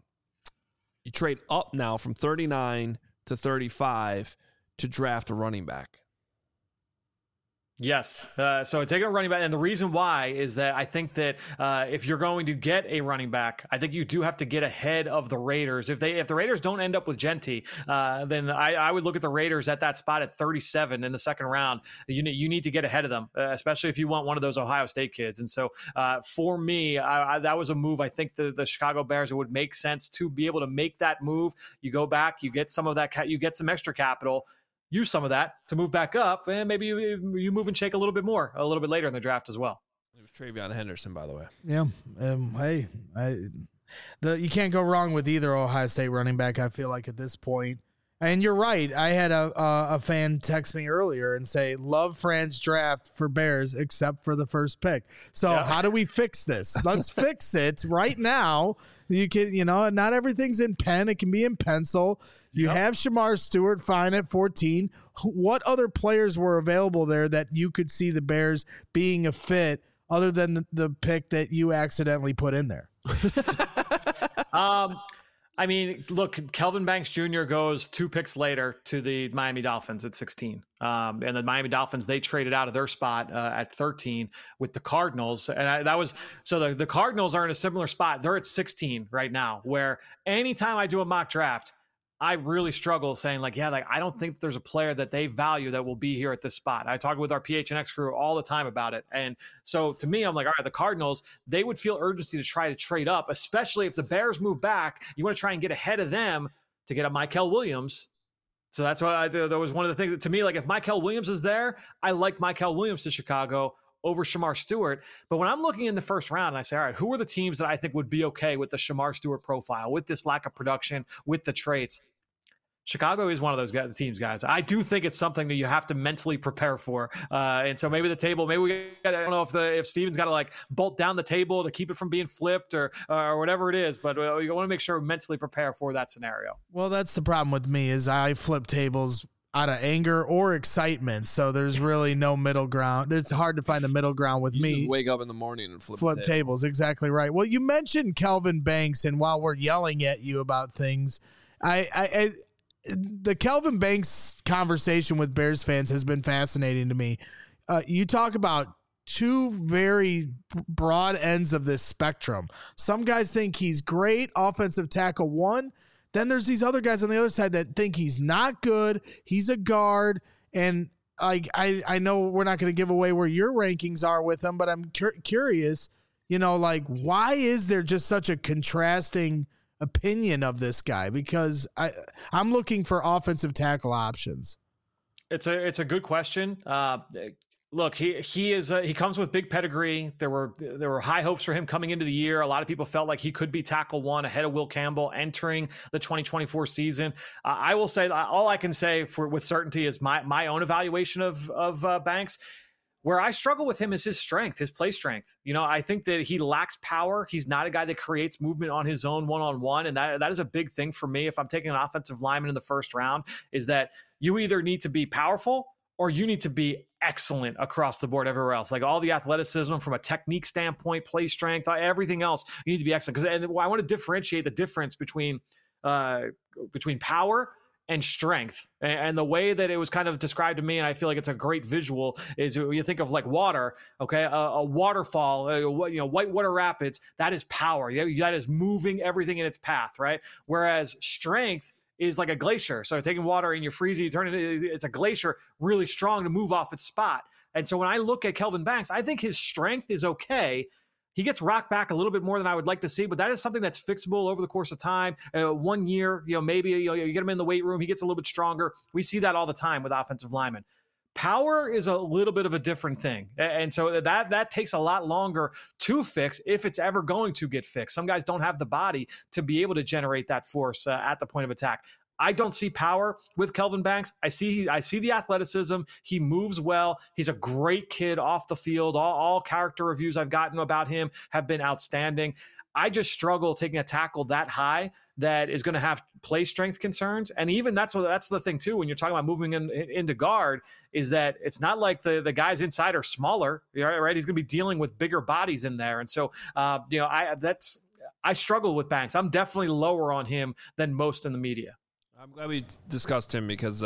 you trade up now from thirty-nine to thirty-five to draft a running back. Yes. Uh, so taking a running back, and the reason why is that I think that uh, if you're going to get a running back, I think you do have to get ahead of the Raiders. If they if the Raiders don't end up with Genty, uh, then I, I would look at the Raiders at that spot at thirty-seven in the second round. You need you need to get ahead of them, uh, especially if you want one of those Ohio State kids. And so uh, for me, I, I, that was a move. I think the the Chicago Bears, it would make sense to be able to make that move. You go back, you get some of that, you get some extra capital. Use some of that to move back up, and maybe you, you move and shake a little bit more a little bit later in the draft as well. It was Travion Henderson, by the way. Yeah. Um, hey, I, the you can't go wrong with either Ohio State running back, I feel like, at this point. And you're right. I had a a, a fan text me earlier and say, love Fran's draft for Bears except for the first pick. So yeah. How do we fix this? Let's fix it right now. You can, you know, not everything's in pen. It can be in pencil. You yep. have Shamar Stewart fine at fourteen. What other players were available there that you could see the Bears being a fit other than the, the pick that you accidentally put in there? um, I mean, look, Kelvin Banks Junior goes two picks later to the Miami Dolphins at sixteen. Um, and the Miami Dolphins, they traded out of their spot uh, at thirteen with the Cardinals. And I, that was, so the, the Cardinals are in a similar spot. They're at sixteen right now, where anytime I do a mock draft, I really struggle saying like, yeah, like, I don't think there's a player that they value that will be here at this spot. I talk with our P H N X crew all the time about it. And so to me, I'm like, all right, the Cardinals, they would feel urgency to try to trade up, especially if the Bears move back. You want to try and get ahead of them to get a Mykel Williams. So that's why I, that was one of the things that, to me, like, if Mykel Williams is there, I like Mykel Williams to Chicago over Shamar Stewart. But when I'm looking in the first round and I say, all right, who are the teams that I think would be okay with the Shamar Stewart profile, with this lack of production, with the traits? Chicago is one of those guys, teams, guys. I do think it's something that you have to mentally prepare for. Uh, and so maybe the table, maybe we got, I don't know if the if Steven's got to like bolt down the table to keep it from being flipped or or whatever it is, but uh, you want to make sure we mentally prepare for that scenario. Well, that's the problem with me is I flip tables out of anger or excitement. So there's really no middle ground. It's hard to find the middle ground with you me. Just wake up in the morning and flip, flip table. tables. Exactly right. Well, you mentioned Kelvin Banks, and while we're yelling at you about things, I, I, I the Kelvin Banks conversation with Bears fans has been fascinating to me. Uh, you talk about two very broad ends of this spectrum. Some guys think he's great, offensive tackle one. Then there's these other guys on the other side that think he's not good. He's a guard. And I, I, I know we're not going to give away where your rankings are with him, but I'm cur- curious, you know, like, why is there just such a contrasting opinion of this guy? Because I, I'm looking for offensive tackle options. It's a it's a good question. Uh, look, he he is a, he comes with big pedigree. There were there were high hopes for him coming into the year. A lot of people felt like he could be tackle one ahead of Will Campbell entering the twenty twenty-four season. Uh, I will say all I can say for with certainty is my my own evaluation of of uh, Banks. Where I struggle with him is his strength, his play strength. You know, I think that he lacks power. He's not a guy that creates movement on his own one-on-one. And that, that is a big thing for me. If I'm taking an offensive lineman in the first round, is that you either need to be powerful or you need to be excellent across the board everywhere else. Like all the athleticism from a technique standpoint, play strength, everything else, you need to be excellent. Because and I want to differentiate the difference between uh, between power and strength. And the way that it was kind of described to me, and I feel like it's a great visual, is when you think of like water, okay, a, a waterfall, a, you know, whitewater rapids, that is power. That is moving everything in its path, right? Whereas strength is like a glacier. So taking water and you're freezing, you turn it, it's a glacier, really strong to move off its spot. And so when I look at Kelvin Banks, I think his strength is okay. He gets rocked back a little bit more than I would like to see, but that is something that's fixable over the course of time. Uh, one year, you know, maybe you know, you get him in the weight room, he gets a little bit stronger. We see that all the time with offensive linemen. Power is a little bit of a different thing. And so that that takes a lot longer to fix if it's ever going to get fixed. Some guys don't have the body to be able to generate that force uh, at the point of attack. I don't see power with Kelvin Banks. I see I see the athleticism. He moves well. He's a great kid off the field. All, all character reviews I've gotten about him have been outstanding. I just struggle taking a tackle that high that is going to have play strength concerns. And even that's what that's the thing too, when you're talking about moving in, in, into guard, is that it's not like the, the guys inside are smaller, right? He's going to be dealing with bigger bodies in there. And so, uh, you know, I that's I struggle with Banks. I'm definitely lower on him than most in the media. I'm glad we discussed him because I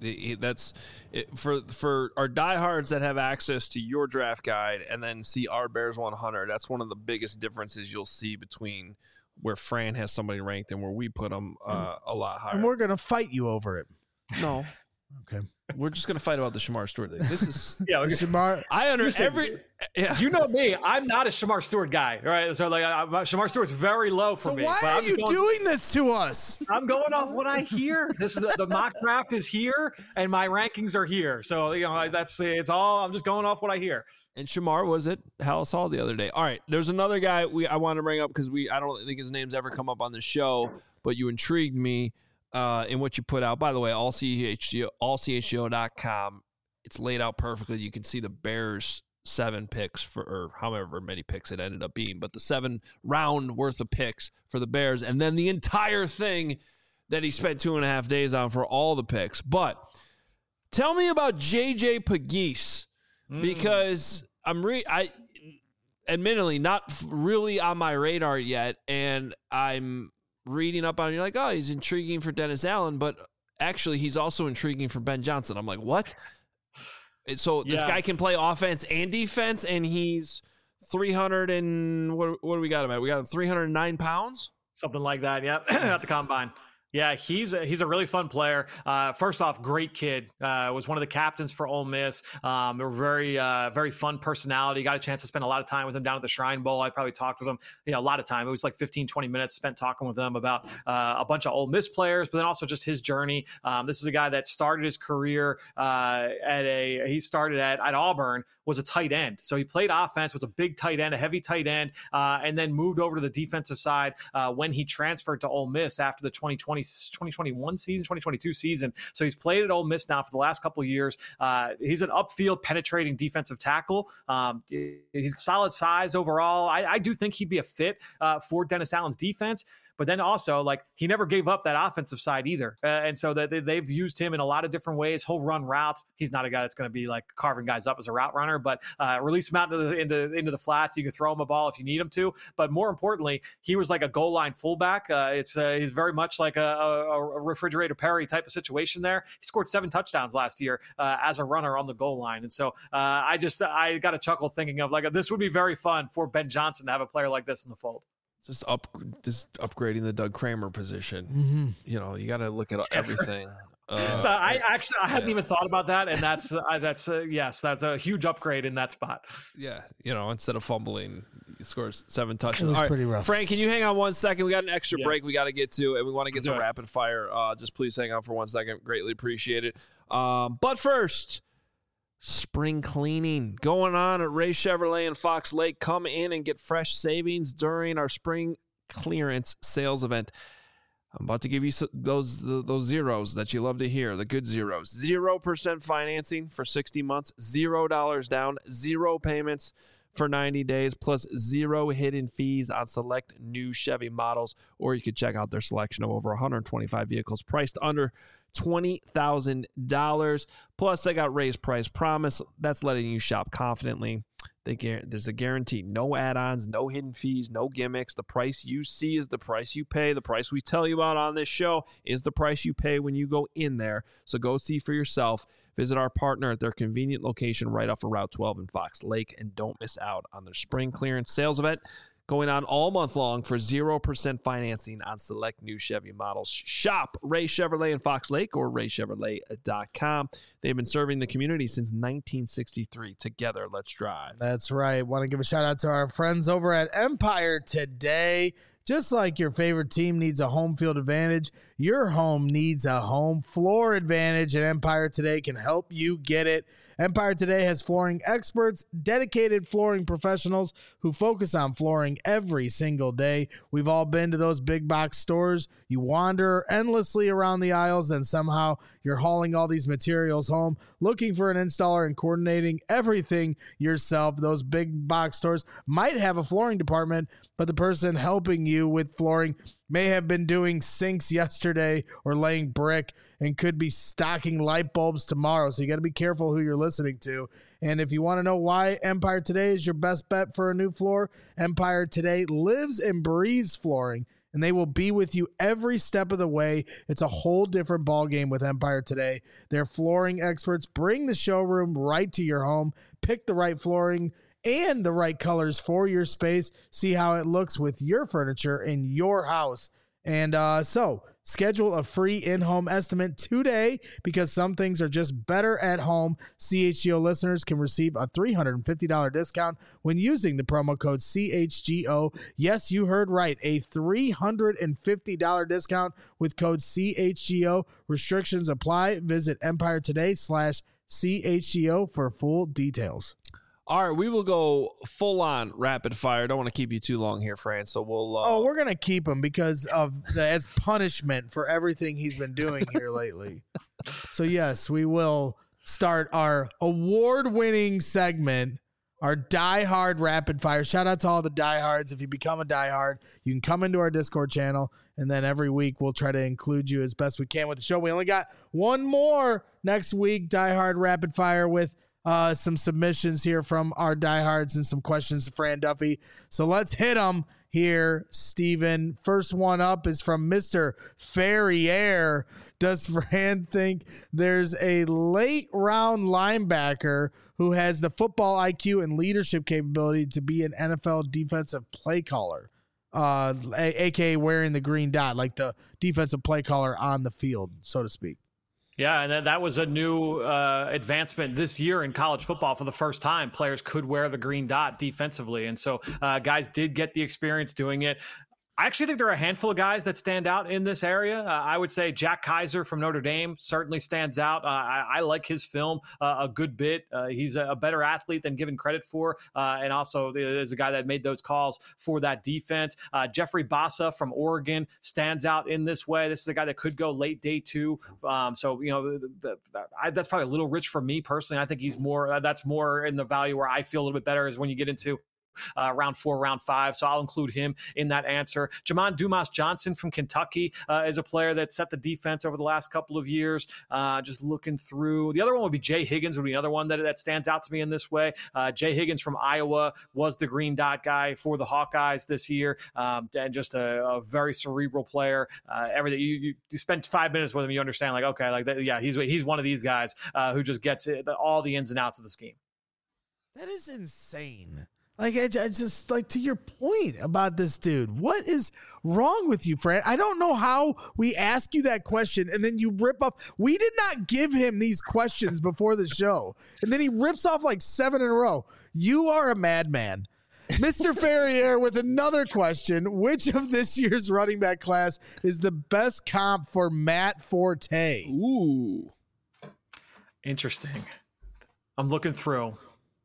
The- That's it, for for our diehards that have access to your draft guide and then see our Bears one hundred. That's one of the biggest differences you'll see between where Fran has somebody ranked and where we put them uh, a lot higher. And we're gonna fight you over it. No, Okay. we're just gonna fight about the Shamar Stewart thing. This is Yeah, okay. Shamar, I under Listen, every yeah. You know me, I'm not a Shamar Stewart guy, right? So like, I, I, Shamar Stewart's very low for so me. why but are I'm you going, doing this to us? I'm going off what I hear. This is the, the mock draft is here, and my rankings are here. So you know, that's it's all. I'm just going off what I hear. And Shamar was at Hallis Hall the other day. All right, there's another guy we I want to bring up because we I don't think his name's ever come up on the show, but you intrigued me uh, in what you put out. By the way, all C H G O, all C H G O dot com. It's laid out perfectly. You can see the Bears seven picks for, or however many picks it ended up being, but the seven round worth of picks for the Bears, and then the entire thing that he spent two and a half days on for all the picks. But tell me about J J Pegues, because I'm re I admittedly not really on my radar yet, and I'm reading up on. You're like, oh, he's intriguing for Dennis Allen, but actually he's also intriguing for Ben Johnson. I'm like, what? So this Yeah. guy can play offense and defense, and he's three hundred and what? What do we got him at? We got him three hundred nine pounds. Something like that. Yep, at the combine. Yeah, he's a, he's a really fun player. Uh, first off, great kid. Uh, was one of the captains for Ole Miss. Um, a very uh, very fun personality. Got a chance to spend a lot of time with him down at the Shrine Bowl. I probably talked with him, you know, a lot of time. It was like fifteen, twenty minutes spent talking with him about uh, a bunch of Ole Miss players, but then also just his journey. Um, this is a guy that started his career uh, at a he started at at Auburn, was a tight end. So he played offense, was a big tight end, a heavy tight end, uh, and then moved over to the defensive side uh, when he transferred to Ole Miss after the twenty twenty twenty twenty-one season, twenty twenty-two season. So he's played at Ole Miss now for the last couple of years. Uh, he's an upfield penetrating defensive tackle. Um, he's solid size overall. I, I do think he'd be a fit uh, for Dennis Allen's defense. But then also, like, he never gave up that offensive side either. Uh, and so that they, they've used him in a lot of different ways. He'll run routes. He's not a guy that's going to be like carving guys up as a route runner, but uh, release him out into the, into, into the flats. You can throw him a ball if you need him to. But more importantly, he was like a goal line fullback. Uh, it's uh, he's very much like a, a, a refrigerator Perry type of situation there. He scored seven touchdowns last year uh, as a runner on the goal line. And so uh, I just I got a chuckle thinking of like, this would be very fun for Ben Johnson to have a player like this in the fold. Just up, just upgrading the Doug Kramer position. Mm-hmm. You know, you got to look at everything. Uh, So I actually I hadn't yeah. even thought about that, and that's uh, that's uh, yes, that's a huge upgrade in that spot. Yeah, you know, instead of fumbling, he scores seven It touchdowns. was All right, pretty rough. Frank, can you hang on one second? We got an extra Yes. break we got to get to, and we want to get Let's to do it. rapid fire. Uh, just please hang on for one second. Greatly appreciate it. Um, but first, spring cleaning going on at Ray Chevrolet in Fox Lake. Come in and get fresh savings during our spring clearance sales event. I'm about to give you so- those those zeros that you love to hear, the good zeros. Zero percent financing for sixty months, zero dollars down, zero payments for ninety days, plus zero hidden fees on select new Chevy models. Or you could check out their selection of over one hundred twenty-five vehicles priced under twenty thousand dollars. Plus, they got raised price promise. That's letting you shop confidently. They guar- there's a guarantee. No add-ons, no hidden fees, no gimmicks. The price you see is the price you pay. The price we tell you about on this show is the price you pay when you go in there. So go see for yourself. Visit our partner at their convenient location right off of Route twelve in Fox Lake, and don't miss out on their spring clearance sales event going on all month long for zero percent financing on select new Chevy models. Shop Ray Chevrolet in Fox Lake or ray chevrolet dot com. They've been serving the community since nineteen sixty-three. Together, let's drive. That's right. Want to give a shout out to our friends over at Empire Today. Just like your favorite team needs a home field advantage, your home needs a home floor advantage, and Empire Today can help you get it. Empire Today has flooring experts, dedicated flooring professionals who focus on flooring every single day. We've all been to those big box stores. You wander endlessly around the aisles, and somehow you're hauling all these materials home, looking for an installer and coordinating everything yourself. Those big box stores might have a flooring department, but the person helping you with flooring may have been doing sinks yesterday or laying brick and could be stocking light bulbs tomorrow. So you got to be careful who you're listening to. And if you want to know why Empire Today is your best bet for a new floor, Empire Today lives and breathes flooring. and they will be with you every step of the way. It's a whole different ball game with Empire Today. Their flooring experts bring the showroom right to your home. Pick the right flooring and the right colors for your space. See how it looks with your furniture in your house. And uh, so schedule a free in-home estimate today because some things are just better at home. C H G O listeners can receive a three hundred fifty dollars discount when using the promo code C H G O. Yes, you heard right. A three hundred fifty dollars discount with code C H G O. Restrictions apply. Visit Empire Today slash C H G O for full details. All right, we will go full on rapid fire. Don't want to keep you too long here, Fran. So we'll. Uh, oh, we're gonna keep him because of the as punishment for everything he's been doing here lately. So yes, we will start our award-winning segment, our Die Hard rapid fire. Shout out to all the diehards. If you become a diehard, you can come into our Discord channel, and then every week we'll try to include you as best we can with the show. We only got one more next week, Die Hard rapid fire with. Uh, some submissions here from our diehards and some questions to Fran Duffy. So let's hit them here, Steven. First one up is from Mister Ferrier. Does Fran think there's a late round linebacker who has the football I Q and leadership capability to be an N F L defensive play caller? Uh, a- AKA wearing the green dot, like the defensive play caller on the field, so to speak. Yeah, and that, that was a new uh, advancement this year in college football. For the first time, players could wear the green dot defensively. And so uh, guys did get the experience doing it. I actually think there are a handful of guys that stand out in this area. Uh, I would say Jack Kaiser from Notre Dame certainly stands out. Uh, I, I like his film uh, a good bit. Uh, he's a, a better athlete than given credit for, uh, and also is a guy that made those calls for that defense. Uh, Jeffrey Bassa from Oregon stands out in this way. This is a guy that could go late day two. Um, so, you know, the, the, the, I, that's probably a little rich for me personally. I think he's more, uh, that's more in the value where I feel a little bit better is when you get into Uh, round four, round five. So I'll include him in that answer. Jamon Dumas Johnson from Kentucky uh, is a player that set the defense over the last couple of years. Uh, just looking through. The other one would be Jay Higgins would be another one that, that stands out to me in this way. Uh, Jay Higgins from Iowa was the green dot guy for the Hawkeyes this year. Um, and just a, a very cerebral player. Uh, everything you, you, you spend five minutes with him, you understand like, okay, like that, yeah, he's, he's one of these guys uh, who just gets it, all the ins and outs of the scheme. That is insane. Like, I, I just, like, to your point about this dude, what is wrong with you, Fran? I don't know how we ask you that question and then you rip off. We did not give him these questions before the show. And then he rips off like seven in a row. You are a madman. Mister Ferrier with another question. Which of this year's running back class is the best comp for Matt Forte? Ooh. Interesting. I'm looking through.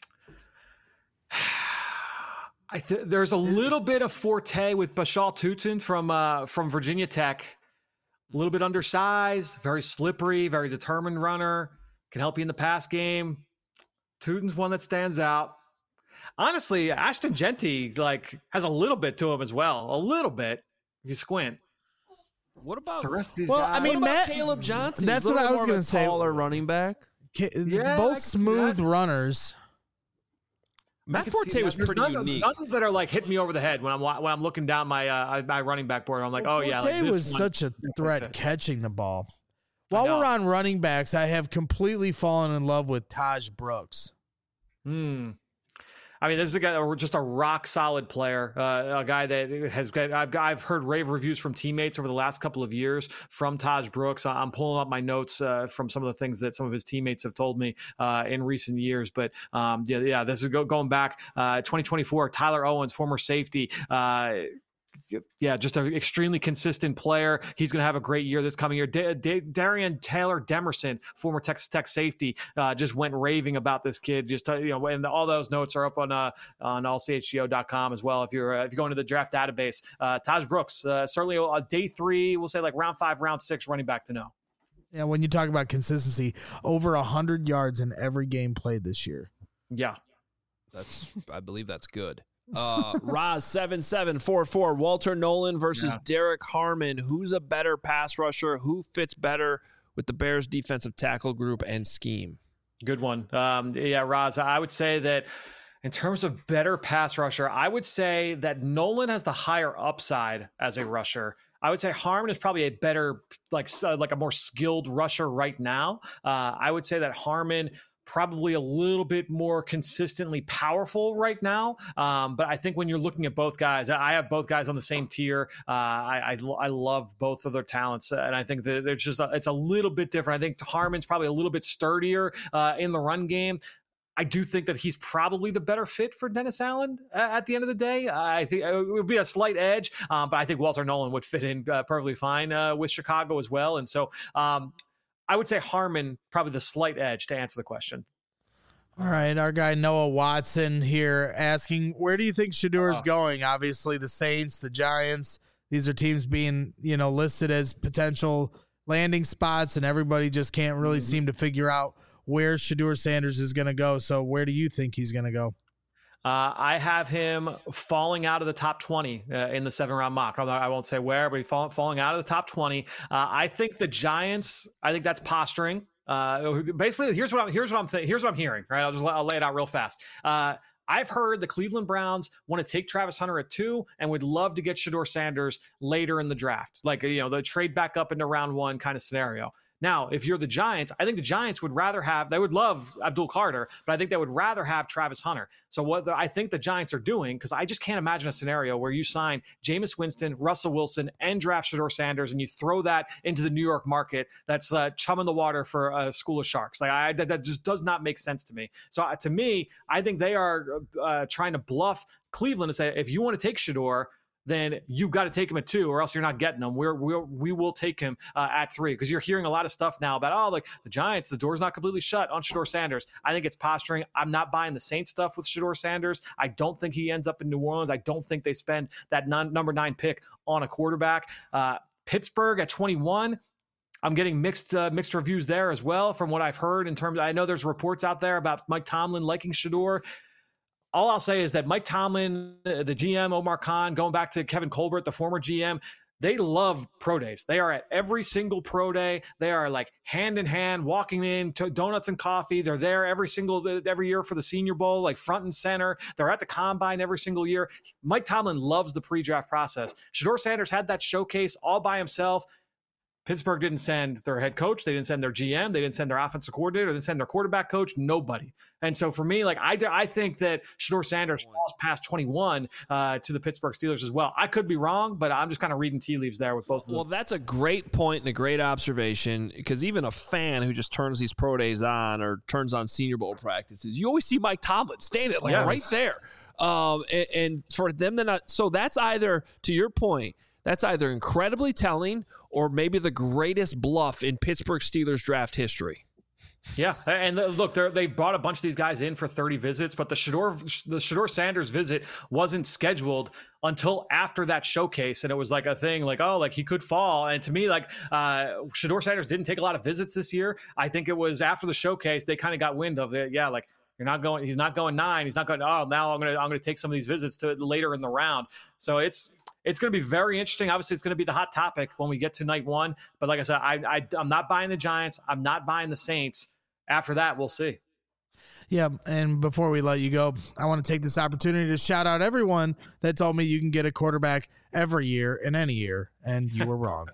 I th- there's a little bit of Forte with Bashal Tutin from uh, from Virginia Tech. A little bit undersized, very slippery, very determined runner. Can help you in the pass game. Tutin's one that stands out. Honestly, Ashton Genty like has a little bit to him as well. A little bit if you squint. What about the rest of these well, guys? I mean, what about Matt, Caleb Johnson? That's He's a what I little was more of going a to say. Taller running back. Yeah, both smooth runners. Matt Forte was pretty none, unique. None that are like hitting me over the head when I'm when I'm looking down my uh, my running back board. I'm like, well, oh yeah, Forte like this was one, such a threat like catching the ball. While we're on running backs, I have completely fallen in love with Taj Brooks. Hmm. I mean, this is a guy, just a rock solid player, uh, a guy that has got, I've, I've heard rave reviews from teammates over the last couple of years from Taj Brooks. I'm pulling up my notes uh, from some of the things that some of his teammates have told me uh, in recent years. But um, yeah, yeah, this is go, going back uh, twenty twenty-four, Tyler Owens, former safety, uh, yeah, just an extremely consistent player. He's going to have a great year this coming year. D- D- Darian Taylor Demerson, former Texas Tech safety, uh, just went raving about this kid. Just uh, you know, and all those notes are up on uh, on all c h g o dot com as well. If you're uh, if you go into the draft database, uh, Taj Brooks, uh, certainly a day three, we'll say like round five, round six running back to know. Yeah, when you talk about consistency, over a hundred yards in every game played this year. Yeah, that's I believe that's good. uh Roz seven seven four four, Walter Nolan versus yeah. Derek Harmon. Who's a better pass rusher? Who fits better with the Bears defensive tackle group and scheme? Good one. Um, yeah, Roz, I would say that In terms of better pass rusher, I would say that Nolan has the higher upside as a rusher. I would say Harmon is probably a better, like, uh, like a more skilled rusher right now. Uh, I would say that Harmon probably a little bit more consistently powerful right now. Um, but I think when you're looking at both guys, I have both guys on the same tier. Uh, I, I, I love both of their talents. And I think that it's just, a, it's a little bit different. I think Harmon's probably a little bit sturdier uh, in the run game. I do think that he's probably the better fit for Dennis Allen uh, at the end of the day. Uh, I think it would be a slight edge, um, but I think Walter Nolan would fit in uh, perfectly fine uh, with Chicago as well. And so um, I would say Harmon probably the slight edge to answer the question. All right, our guy Noah Watson here asking, where do you think Shedeur's uh, going? Obviously, the Saints, the Giants, these are teams being, you know, listed as potential landing spots, and everybody just can't really mm-hmm. seem to figure out where Shedeur Sanders is going to go. So where do you think he's going to go? Uh, I have him falling out of the top twenty uh, in the seven round mock. I won't say where, but he's fall, falling out of the top twenty. Uh, I think the Giants, I think that's posturing. Uh, basically, here's what I'm, here's what I'm, th- here's what I'm hearing, right? I'll just, I'll lay it out real fast. Uh, I've heard the Cleveland Browns want to take Travis Hunter at two and would love to get Shedeur Sanders later in the draft. Like, you know, the trade back up into round one kind of scenario. Now, if you're the Giants, I think the Giants would rather have, they would love Abdul Carter, but I think they would rather have Travis Hunter. So what the, I think the Giants are doing, because I just can't imagine a scenario where you sign Jameis Winston, Russell Wilson, and draft Shedeur Sanders, and you throw that into the New York market that's uh, chum in the water for a school of sharks. Like I, that, that just does not make sense to me. So uh, to me, I think they are uh, trying to bluff Cleveland to say, if you want to take Shedeur, then you've got to take him at two, or else you're not getting him. We're, we're we will take him uh, at three, because you're hearing a lot of stuff now about, oh, like the Giants, the door's not completely shut on Shedeur Sanders. I think it's posturing. I'm not buying the Saints stuff with Shedeur Sanders. I don't think he ends up in New Orleans. I don't think they spend that non, number nine pick on a quarterback. Uh, Pittsburgh at twenty-one. I'm getting mixed uh, mixed reviews there as well from what I've heard in terms of, I know there's reports out there about Mike Tomlin liking Shedeur. All I'll say is that Mike Tomlin, the G M, Omar Khan, going back to Kevin Colbert, the former G M, they love pro days. They are at every single pro day. They are like hand in hand, walking in to donuts and coffee. They're there every single, every year for the Senior Bowl, like front and center. They're at the combine every single year. Mike Tomlin loves the pre-draft process. Shedeur Sanders had that showcase all by himself. Pittsburgh didn't send their head coach. They didn't send their G M. They didn't send their offensive coordinator. They didn't send their quarterback coach. Nobody. And so for me, like I, I think that Shedeur Sanders falls past twenty-one uh, to the Pittsburgh Steelers as well. I could be wrong, but I'm just kind of reading tea leaves there with both of them. Well, that's a great point and a great observation, because even a fan who just turns these pro days on or turns on Senior Bowl practices, you always see Mike Tomlin standing like yes. right there. Um, and, and for them to not, so that's either, to your point, that's either incredibly telling or maybe the greatest bluff in Pittsburgh Steelers draft history. Yeah, and look, they brought a bunch of these guys in for thirty visits, but the Shedeur, the Shedeur Sanders visit wasn't scheduled until after that showcase, and it was like a thing, like, oh, like he could fall. And to me, like uh, Shedeur Sanders didn't take a lot of visits this year. I think it was after the showcase they kind of got wind of it. Yeah, like you're not going, he's not going nine, he's not going. Oh, now I'm gonna I'm gonna take some of these visits to later in the round. So it's. It's going to be very interesting. Obviously, it's going to be the hot topic when we get to night one. But like I said, I, I, I'm not buying the Giants. I'm not buying the Saints. After that, we'll see. Yeah, and before we let you go, I want to take this opportunity to shout out everyone that told me you can get a quarterback every year in any year, and you were wrong.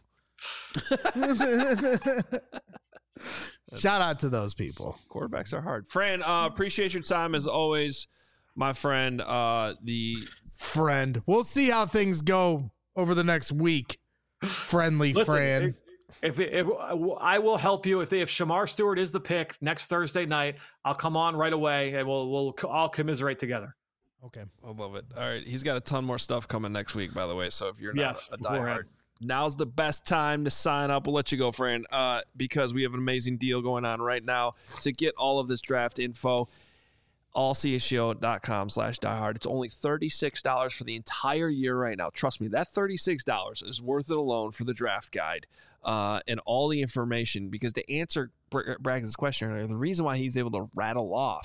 Shout out to those people. Quarterbacks are hard. Fran, uh, appreciate your time as always, my friend. Uh, the friend. We'll see how things go over the next week. Friendly Listen, Fran. If, if, if I will help you, if they, if Shamar Stewart is the pick next Thursday night, I'll come on right away and we'll we'll all commiserate together. Okay, I love it. All right, he's got a ton more stuff coming next week, by the way. So if you're not yes, a diehard, now's the best time to sign up. We'll let you go, Fran, uh, because we have an amazing deal going on right now to get all of this draft info. all c s g o dot com slash diehard. It's only thirty-six dollars for the entire year right now. Trust me, that thirty-six dollars is worth it alone for the draft guide uh, and all the information. Because to answer Braggs' question earlier, the reason why he's able to rattle off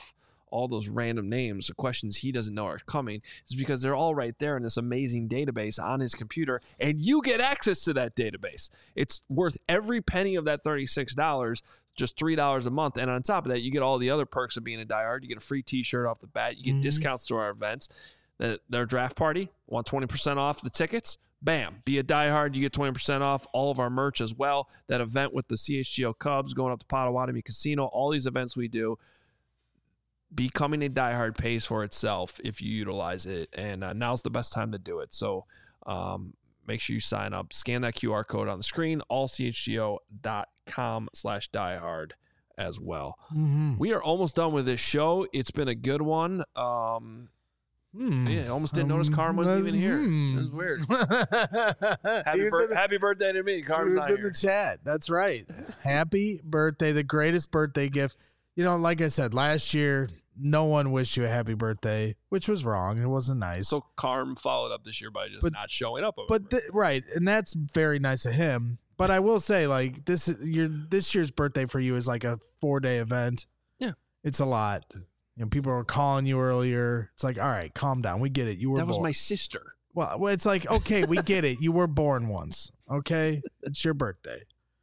all those random names, the questions he doesn't know are coming, is because they're all right there in this amazing database on his computer, and you get access to that database. It's worth every penny of that thirty-six dollars, just three dollars a month. And on top of that, you get all the other perks of being a diehard. You get a free t-shirt off the bat. You get mm-hmm. discounts to our events. The, their draft party, want twenty percent off the tickets? Bam. Be a diehard, you get twenty percent off all of our merch as well. That event with the C H G O Cubs going up to Potawatomi Casino, all these events we do, becoming a diehard pays for itself if you utilize it. And uh, now's the best time to do it. So um, make sure you sign up. Scan that Q R code on the screen, all C H G O dot com slash diehard as well. Mm-hmm. We are almost done with this show. It's been a good one. Um, Hmm. Yeah, I almost didn't um, notice Carm wasn't even here. Hmm. It was weird. happy, bir- the, happy birthday to me. Carm's he was not in here. the chat. That's right. Happy birthday. The greatest birthday gift. You know, like I said, last year, no one wished you a happy birthday, which was wrong. It wasn't nice. So Carm followed up this year by just but, not showing up. But th- Right, and that's very nice of him. But I will say, like, this, your, this year's birthday for you is like a four-day event. Yeah. It's a lot. You know, people were calling you earlier. It's like, all right, calm down. We get it. You were That was born. my sister. Well, well, it's like, okay, we get it. You were born once. Okay? It's your birthday.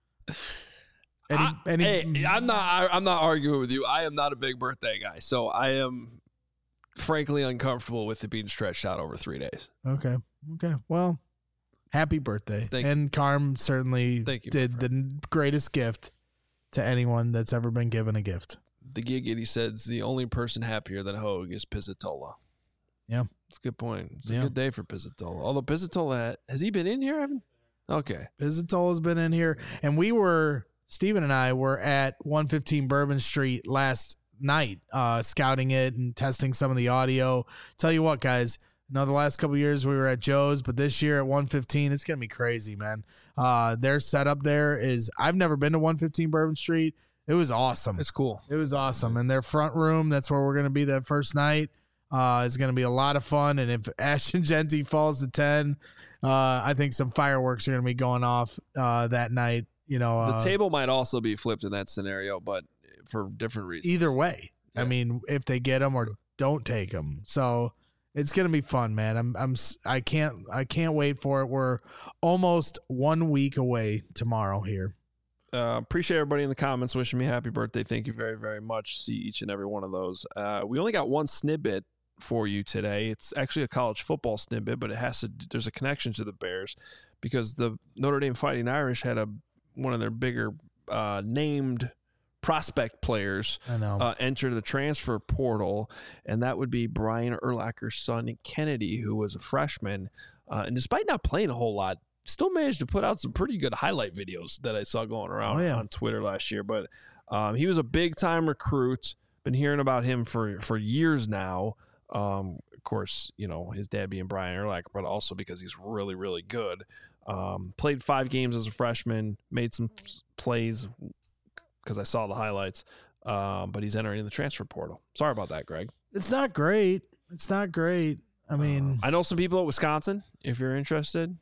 Any, I, any, hey, I'm not I, I'm not arguing with you. I am not a big birthday guy. So I am frankly uncomfortable with it being stretched out over three days. Okay. Okay. Well, happy birthday. Thank and Carm certainly Thank you, did the greatest gift to anyone that's ever been given a gift. The Giggity says the only person happier than Hogue is Pizzatola. Yeah. That's a good point. It's yeah. a good day for Pizzatola. Although Pizzatola, has he been in here, Evan? Okay. Pizzatola's been in here. And we were, Steven and I were at one fifteen Bourbon Street last night, uh, scouting it and testing some of the audio. Tell you what, guys, you know, the last couple of years we were at Joe's, but this year at one fifteen, it's going to be crazy, man. Uh, their setup there is, I've never been to one fifteen Bourbon Street. It was awesome. It's cool. It was awesome. And their front room, that's where we're going to be that first night. Uh, it's going to be a lot of fun. And if Ashton Genty falls to ten, uh, I think some fireworks are going to be going off uh, that night. You know, uh, the table might also be flipped in that scenario, but for different reasons. Either way, yeah. I mean, if they get them or don't take them, so it's going to be fun, man. I'm, I'm, I can't, I can't wait for it. We're almost one week away tomorrow here. Uh, appreciate everybody in the comments wishing me happy birthday. Thank you very, very much. See each and every one of those. Uh, we only got one snippet for you today. It's actually a college football snippet, but it has to. There's a connection to the Bears because the Notre Dame Fighting Irish had a one of their bigger uh, named prospect players I know. Uh, enter the transfer portal, and that would be Brian Urlacher's son Kennedy, who was a freshman, uh, and despite not playing a whole lot, still managed to put out some pretty good highlight videos that I saw going around oh, yeah. on Twitter last year. But um, he was a big-time recruit. Been hearing about him for, for years now. Um, of course, you know, his dad being Brian Urlacher, but also because he's really, really good. Um, played five games as a freshman, made some plays because I saw the highlights, um, but he's entering the transfer portal. Sorry about that, Greg. It's not great. It's not great. I mean, uh, I know some people at Wisconsin, if you're interested.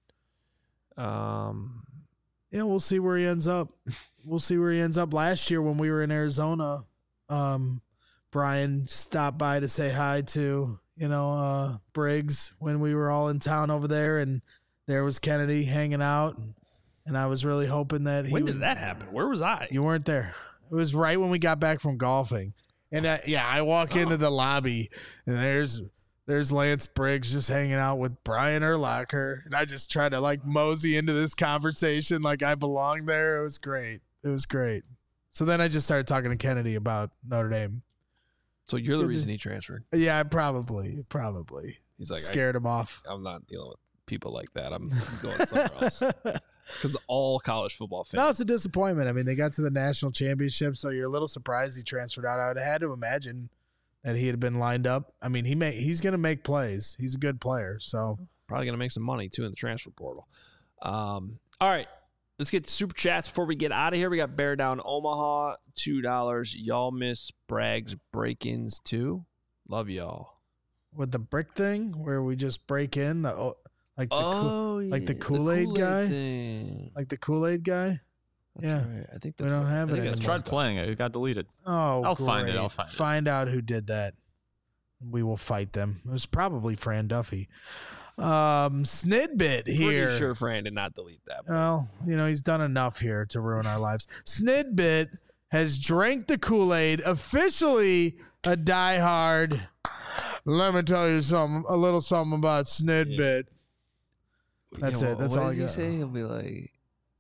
Um, yeah, we'll see where he ends up. We'll see where he ends up. Last year when we were in Arizona, um, Brian stopped by to say hi to, you know, uh, Briggs when we were all in town over there, and there was Kennedy hanging out, and, and I was really hoping that he When did would, that happen? Where was I? You weren't there. It was right when we got back from golfing. And I, yeah, I walk oh. into the lobby, and there's There's Lance Briggs just hanging out with Brian Urlacher. And I just try to like mosey into this conversation like I belong there. It was great. It was great. So then I just started talking to Kennedy about Notre Dame. So you're the reason he transferred? Yeah, probably. Probably. He's like, scared I, him off. I'm not dealing with people like that. I'm going somewhere else. Because all college football fans. No, it's a disappointment. I mean, they got to the national championship, so you're a little surprised he transferred out. I would have had to imagine that he had been lined up. I mean, he may he's going to make plays. He's a good player, so probably going to make some money too in the transfer portal. Um, all right, let's get to super chats before we get out of here. We got Bear Down Omaha, two dollars. Y'all miss Bragg's break-ins too. Love y'all. With the brick thing where we just break in the like the oh, Kool- yeah, like the Kool-Aid, the Kool-Aid guy, thing. like the Kool-Aid guy. That's Yeah. right. I think We that's don't what- have I it think that's anymore. I tried playing it. It got deleted. Oh, I'll find it, great. I'll find it. Find out who did that. We will fight them. It was probably Fran Duffy. Um, Snidbit here. Pretty sure Fran did not delete that. Well, you know, he's done enough here to ruin our lives. Snidbit has drank the Kool-Aid, officially a diehard. Let me tell you something, a little something about Snidbit. That's Yeah, it. That's what all I does he got. say? He'll be like,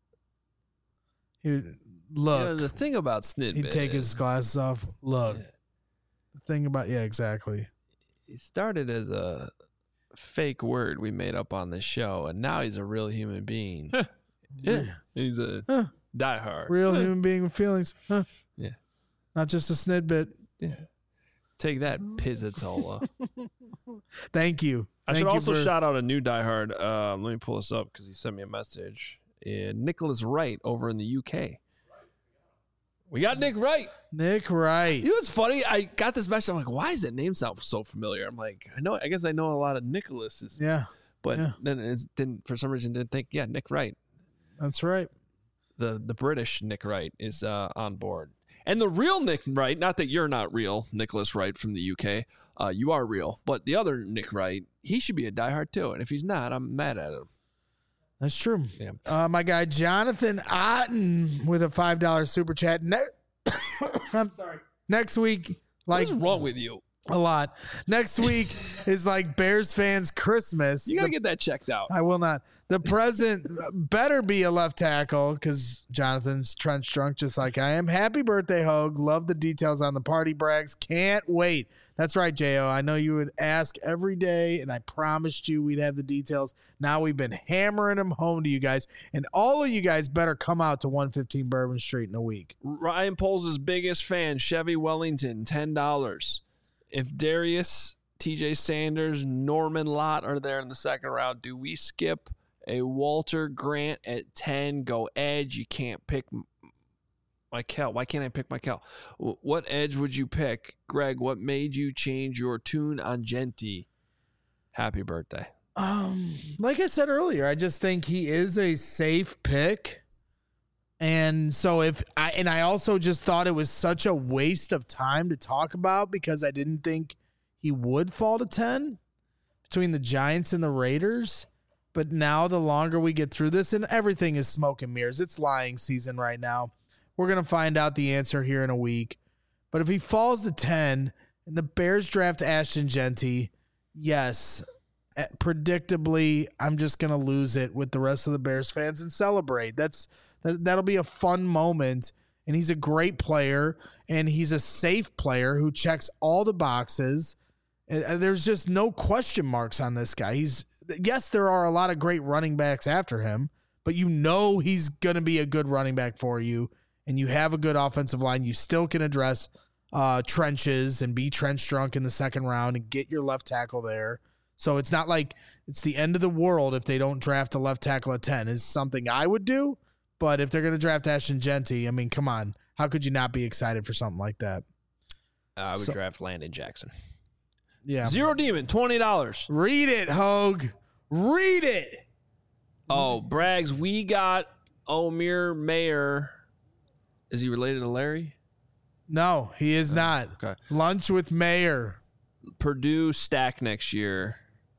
He, you look, know, the thing about Snidbit, he'd take his glasses off. Look, Yeah. the thing about, yeah, exactly. he started as a fake word we made up on this show, and now he's a real human being. Yeah, he's a Huh. diehard. Real Huh. human being with feelings. Huh? Yeah. Not just a Snidbit. Yeah. Take that, Pizzatola. Thank you. I Thank should you also for- shout out a new diehard. Um, let me pull this up because he sent me a message. And Nicholas Wright over in the U K. We got Nick Wright. Nick Wright. You know what's funny? I got this message. I'm like, why does that name sound so familiar? I'm like, I know. I guess I know a lot of Nicholases. Yeah, But yeah. then it's, then for some reason didn't think, yeah, Nick Wright. that's right. The the British Nick Wright is uh, on board. And the real Nick Wright, not that you're not real, Nicholas Wright from the U K. Uh, you are real. But the other Nick Wright, he should be a diehard too. And if he's not, I'm mad at him. That's true. Yeah. Uh, my guy Jonathan Otten with a five dollar super chat. Ne- I'm sorry. Next week, like What's wrong with you? a lot. Next week is like Bears fans Christmas. You got to The- get that checked out. I will not. The present better be a left tackle because Jonathan's trench drunk just like I am. Happy birthday, Hogue. Love the details on the party brags. Can't wait. That's right, J O. I know you would ask every day, and I promised you we'd have the details. Now we've been hammering them home to you guys, and all of you guys better come out to one fifteen Bourbon Street in a week. Ryan Poles' biggest fan, Chevy Wellington, ten dollars. If Darius, T J Sanders, Norman Lott are there in the second round, do we skip a Walter Grant at ten? Go edge. You can't pick Michael. Why can't I pick Michael? What edge would you pick? Greg, what made you change your tune on Genti? Happy birthday. Um, like I said earlier, I just think he is a safe pick. And so if I and I also just thought it was such a waste of time to talk about because I didn't think he would fall to ten between the Giants and the Raiders. But now the longer we get through this, and everything is smoke and mirrors. It's lying season right now. We're going to find out the answer here in a week. But if he falls to ten and the Bears draft Ashton Genti, yes, predictably, I'm just going to lose it with the rest of the Bears fans and celebrate. That's that, that'll be a fun moment. And he's a great player, and he's a safe player who checks all the boxes. And there's just no question marks on this guy. He's yes, there are a lot of great running backs after him, but you know he's going to be a good running back for you, and you have a good offensive line. You still can address uh, trenches and be trench drunk in the second round and get your left tackle there. So it's not like it's the end of the world if they don't draft a left tackle at ten. Is something I would do, but if they're going to draft Ashton Genti, I mean, come on. How could you not be excited for something like that? Uh, I would So- draft Landon Jackson. Yeah. Zero Demon, twenty dollars. Read it, Hogue. Read it. Oh, Braggs, we got Omir Mayer. Is he related to Larry? No, he is not. Okay. Lunch with Mayor. Purdue stack next year.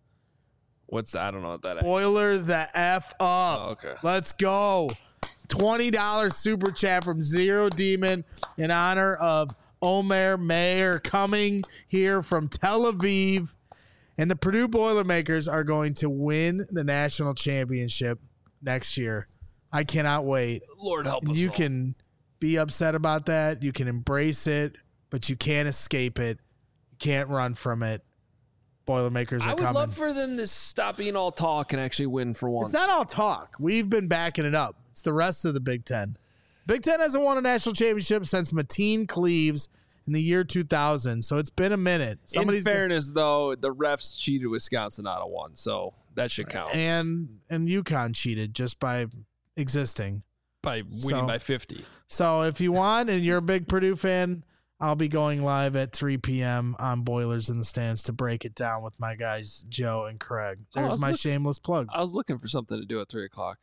What's I don't know what that is. Boiler the F up. Oh, okay. Let's go. twenty dollars super chat from Zero Demon in honor of Omer Mayer coming here from Tel Aviv. And the Purdue Boilermakers are going to win the national championship next year. I cannot wait. Lord help And us. you all. can be upset about that. You can embrace it, but you can't escape it. You can't run from it. Boilermakers are I would coming. love for them to stop being all talk and actually win for once. It's not all talk. We've been backing it up. It's the rest of the Big Ten. Big Ten hasn't won a national championship since Mateen Cleaves in the year two thousand. So it's been a minute. Somebody's In fairness, though, the refs cheated Wisconsin out of one, so that should count and and UConn cheated just by existing. by winning so- by fifty. So if you want and you're a big Purdue fan, I'll be going live at three p.m. on Boilers in the Stands to break it down with my guys Joe and Craig. Oh, There's let's my look- shameless plug. I was looking for something to do at three o'clock.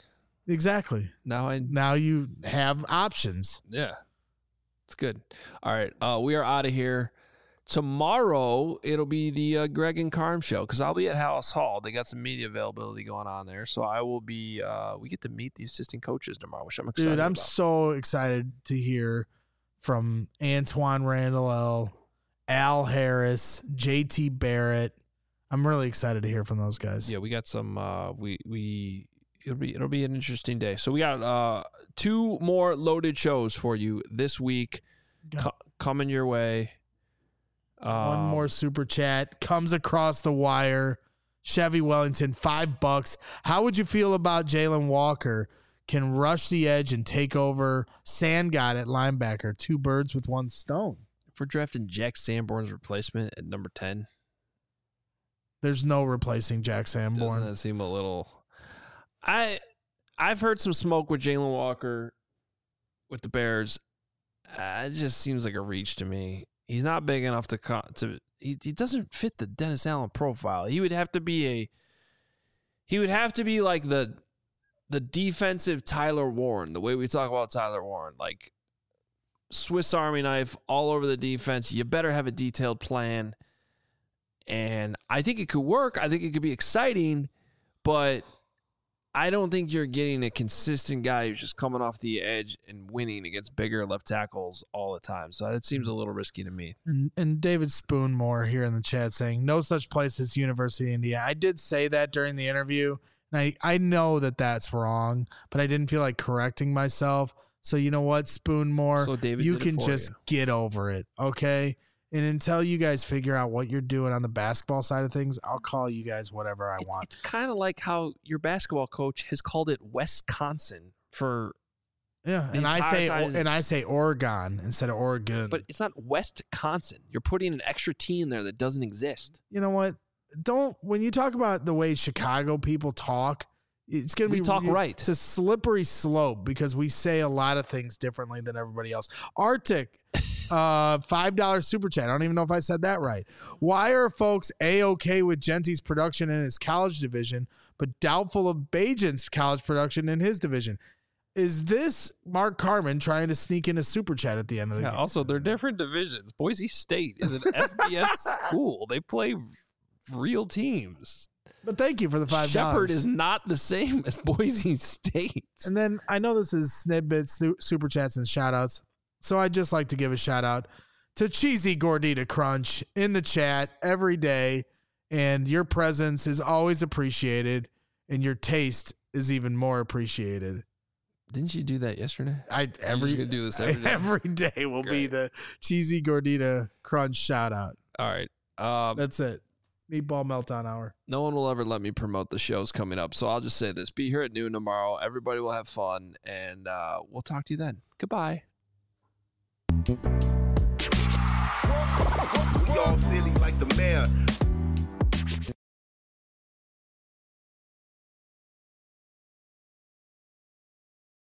Exactly. Now I Now you have options. yeah, it's good. All right, uh, we are out of here. Tomorrow it'll be the uh, Greg and Carm show because I'll be at Hallis Hall. They got some media availability going on there, so I will be. Uh, we get to meet the assistant coaches tomorrow, which I'm excited Dude, I'm about. so excited to hear from Antoine Randall, Al Harris, J T Barrett. I'm really excited to hear from those guys. Yeah, we got some. Uh, we we it'll be it'll be an interesting day. So we got uh, two more loaded shows for you this week co- coming your way. One Um, more super chat comes across the wire. Chevy Wellington, five bucks. How would you feel about Jalen Walker? Can rush the edge and take over Sandgott at linebacker. Two birds with one stone. If we're drafting Jack Sanborn's replacement at number ten, There's no replacing Jack Sanborn. doesn't that seem a little? I I've heard some smoke with Jalen Walker with the Bears. Uh, it just seems like a reach to me. He's not big enough to co- to. He he doesn't fit the Dennis Allen profile. He would have to be a. He would have to be like the, the defensive Tyler Warren. The way we talk about Tyler Warren, like Swiss Army knife all over the defense. You better have a detailed plan. And I think it could work. I think it could be exciting, but I don't think you're getting a consistent guy who's just coming off the edge and winning against bigger left tackles all the time. So that seems a little risky to me. And, and David Spoonmore here in the chat saying, no such place as University of Indiana. I did say that during the interview, and I, I know that that's wrong, but I didn't feel like correcting myself. So you know what, Spoonmore? So David you did it can for just you. get over it, okay? And until you guys figure out what you're doing on the basketball side of things, I'll call you guys whatever I It's, want. it's kind of like how your basketball coach has called it Wisconsin for, Yeah, the and I entire say time- and I say Oregon instead of Oregon. but it's not Wisconsin. You're putting an extra T in there that doesn't exist. you know what? Don't when you talk about the way Chicago people talk, it's gonna We be talk it- right. It's a slippery slope because we say a lot of things differently than everybody else. Arctic, uh, five dollar super chat. I don't even know if I said that right. Why are folks a okay with Genty's production in his college division, but doubtful of Bajan's college production in his division? Is this Mark Carman trying to sneak in a super chat at the end of the Yeah, game? also, they're different divisions. Boise State is an F B S school. They play real teams. But thank you for the five dollars. Shepherd is not the same as Boise State. And then I know this is snippets, su- super chats, and shout outs. So I'd just like to give a shout out to Cheesy Gordita Crunch in the chat every day. And your presence is always appreciated, and your taste is even more appreciated. Didn't you do that yesterday? I every just gonna do this every day? every day will be Great. the Cheesy Gordita Crunch shout out. All right. Um, That's it. Meatball Meltdown Hour. no one will ever let me promote the shows coming up. So I'll just say this. Be here at noon tomorrow. Everybody will have fun, and uh, we'll talk to you then. Goodbye. We all silly like the mayor.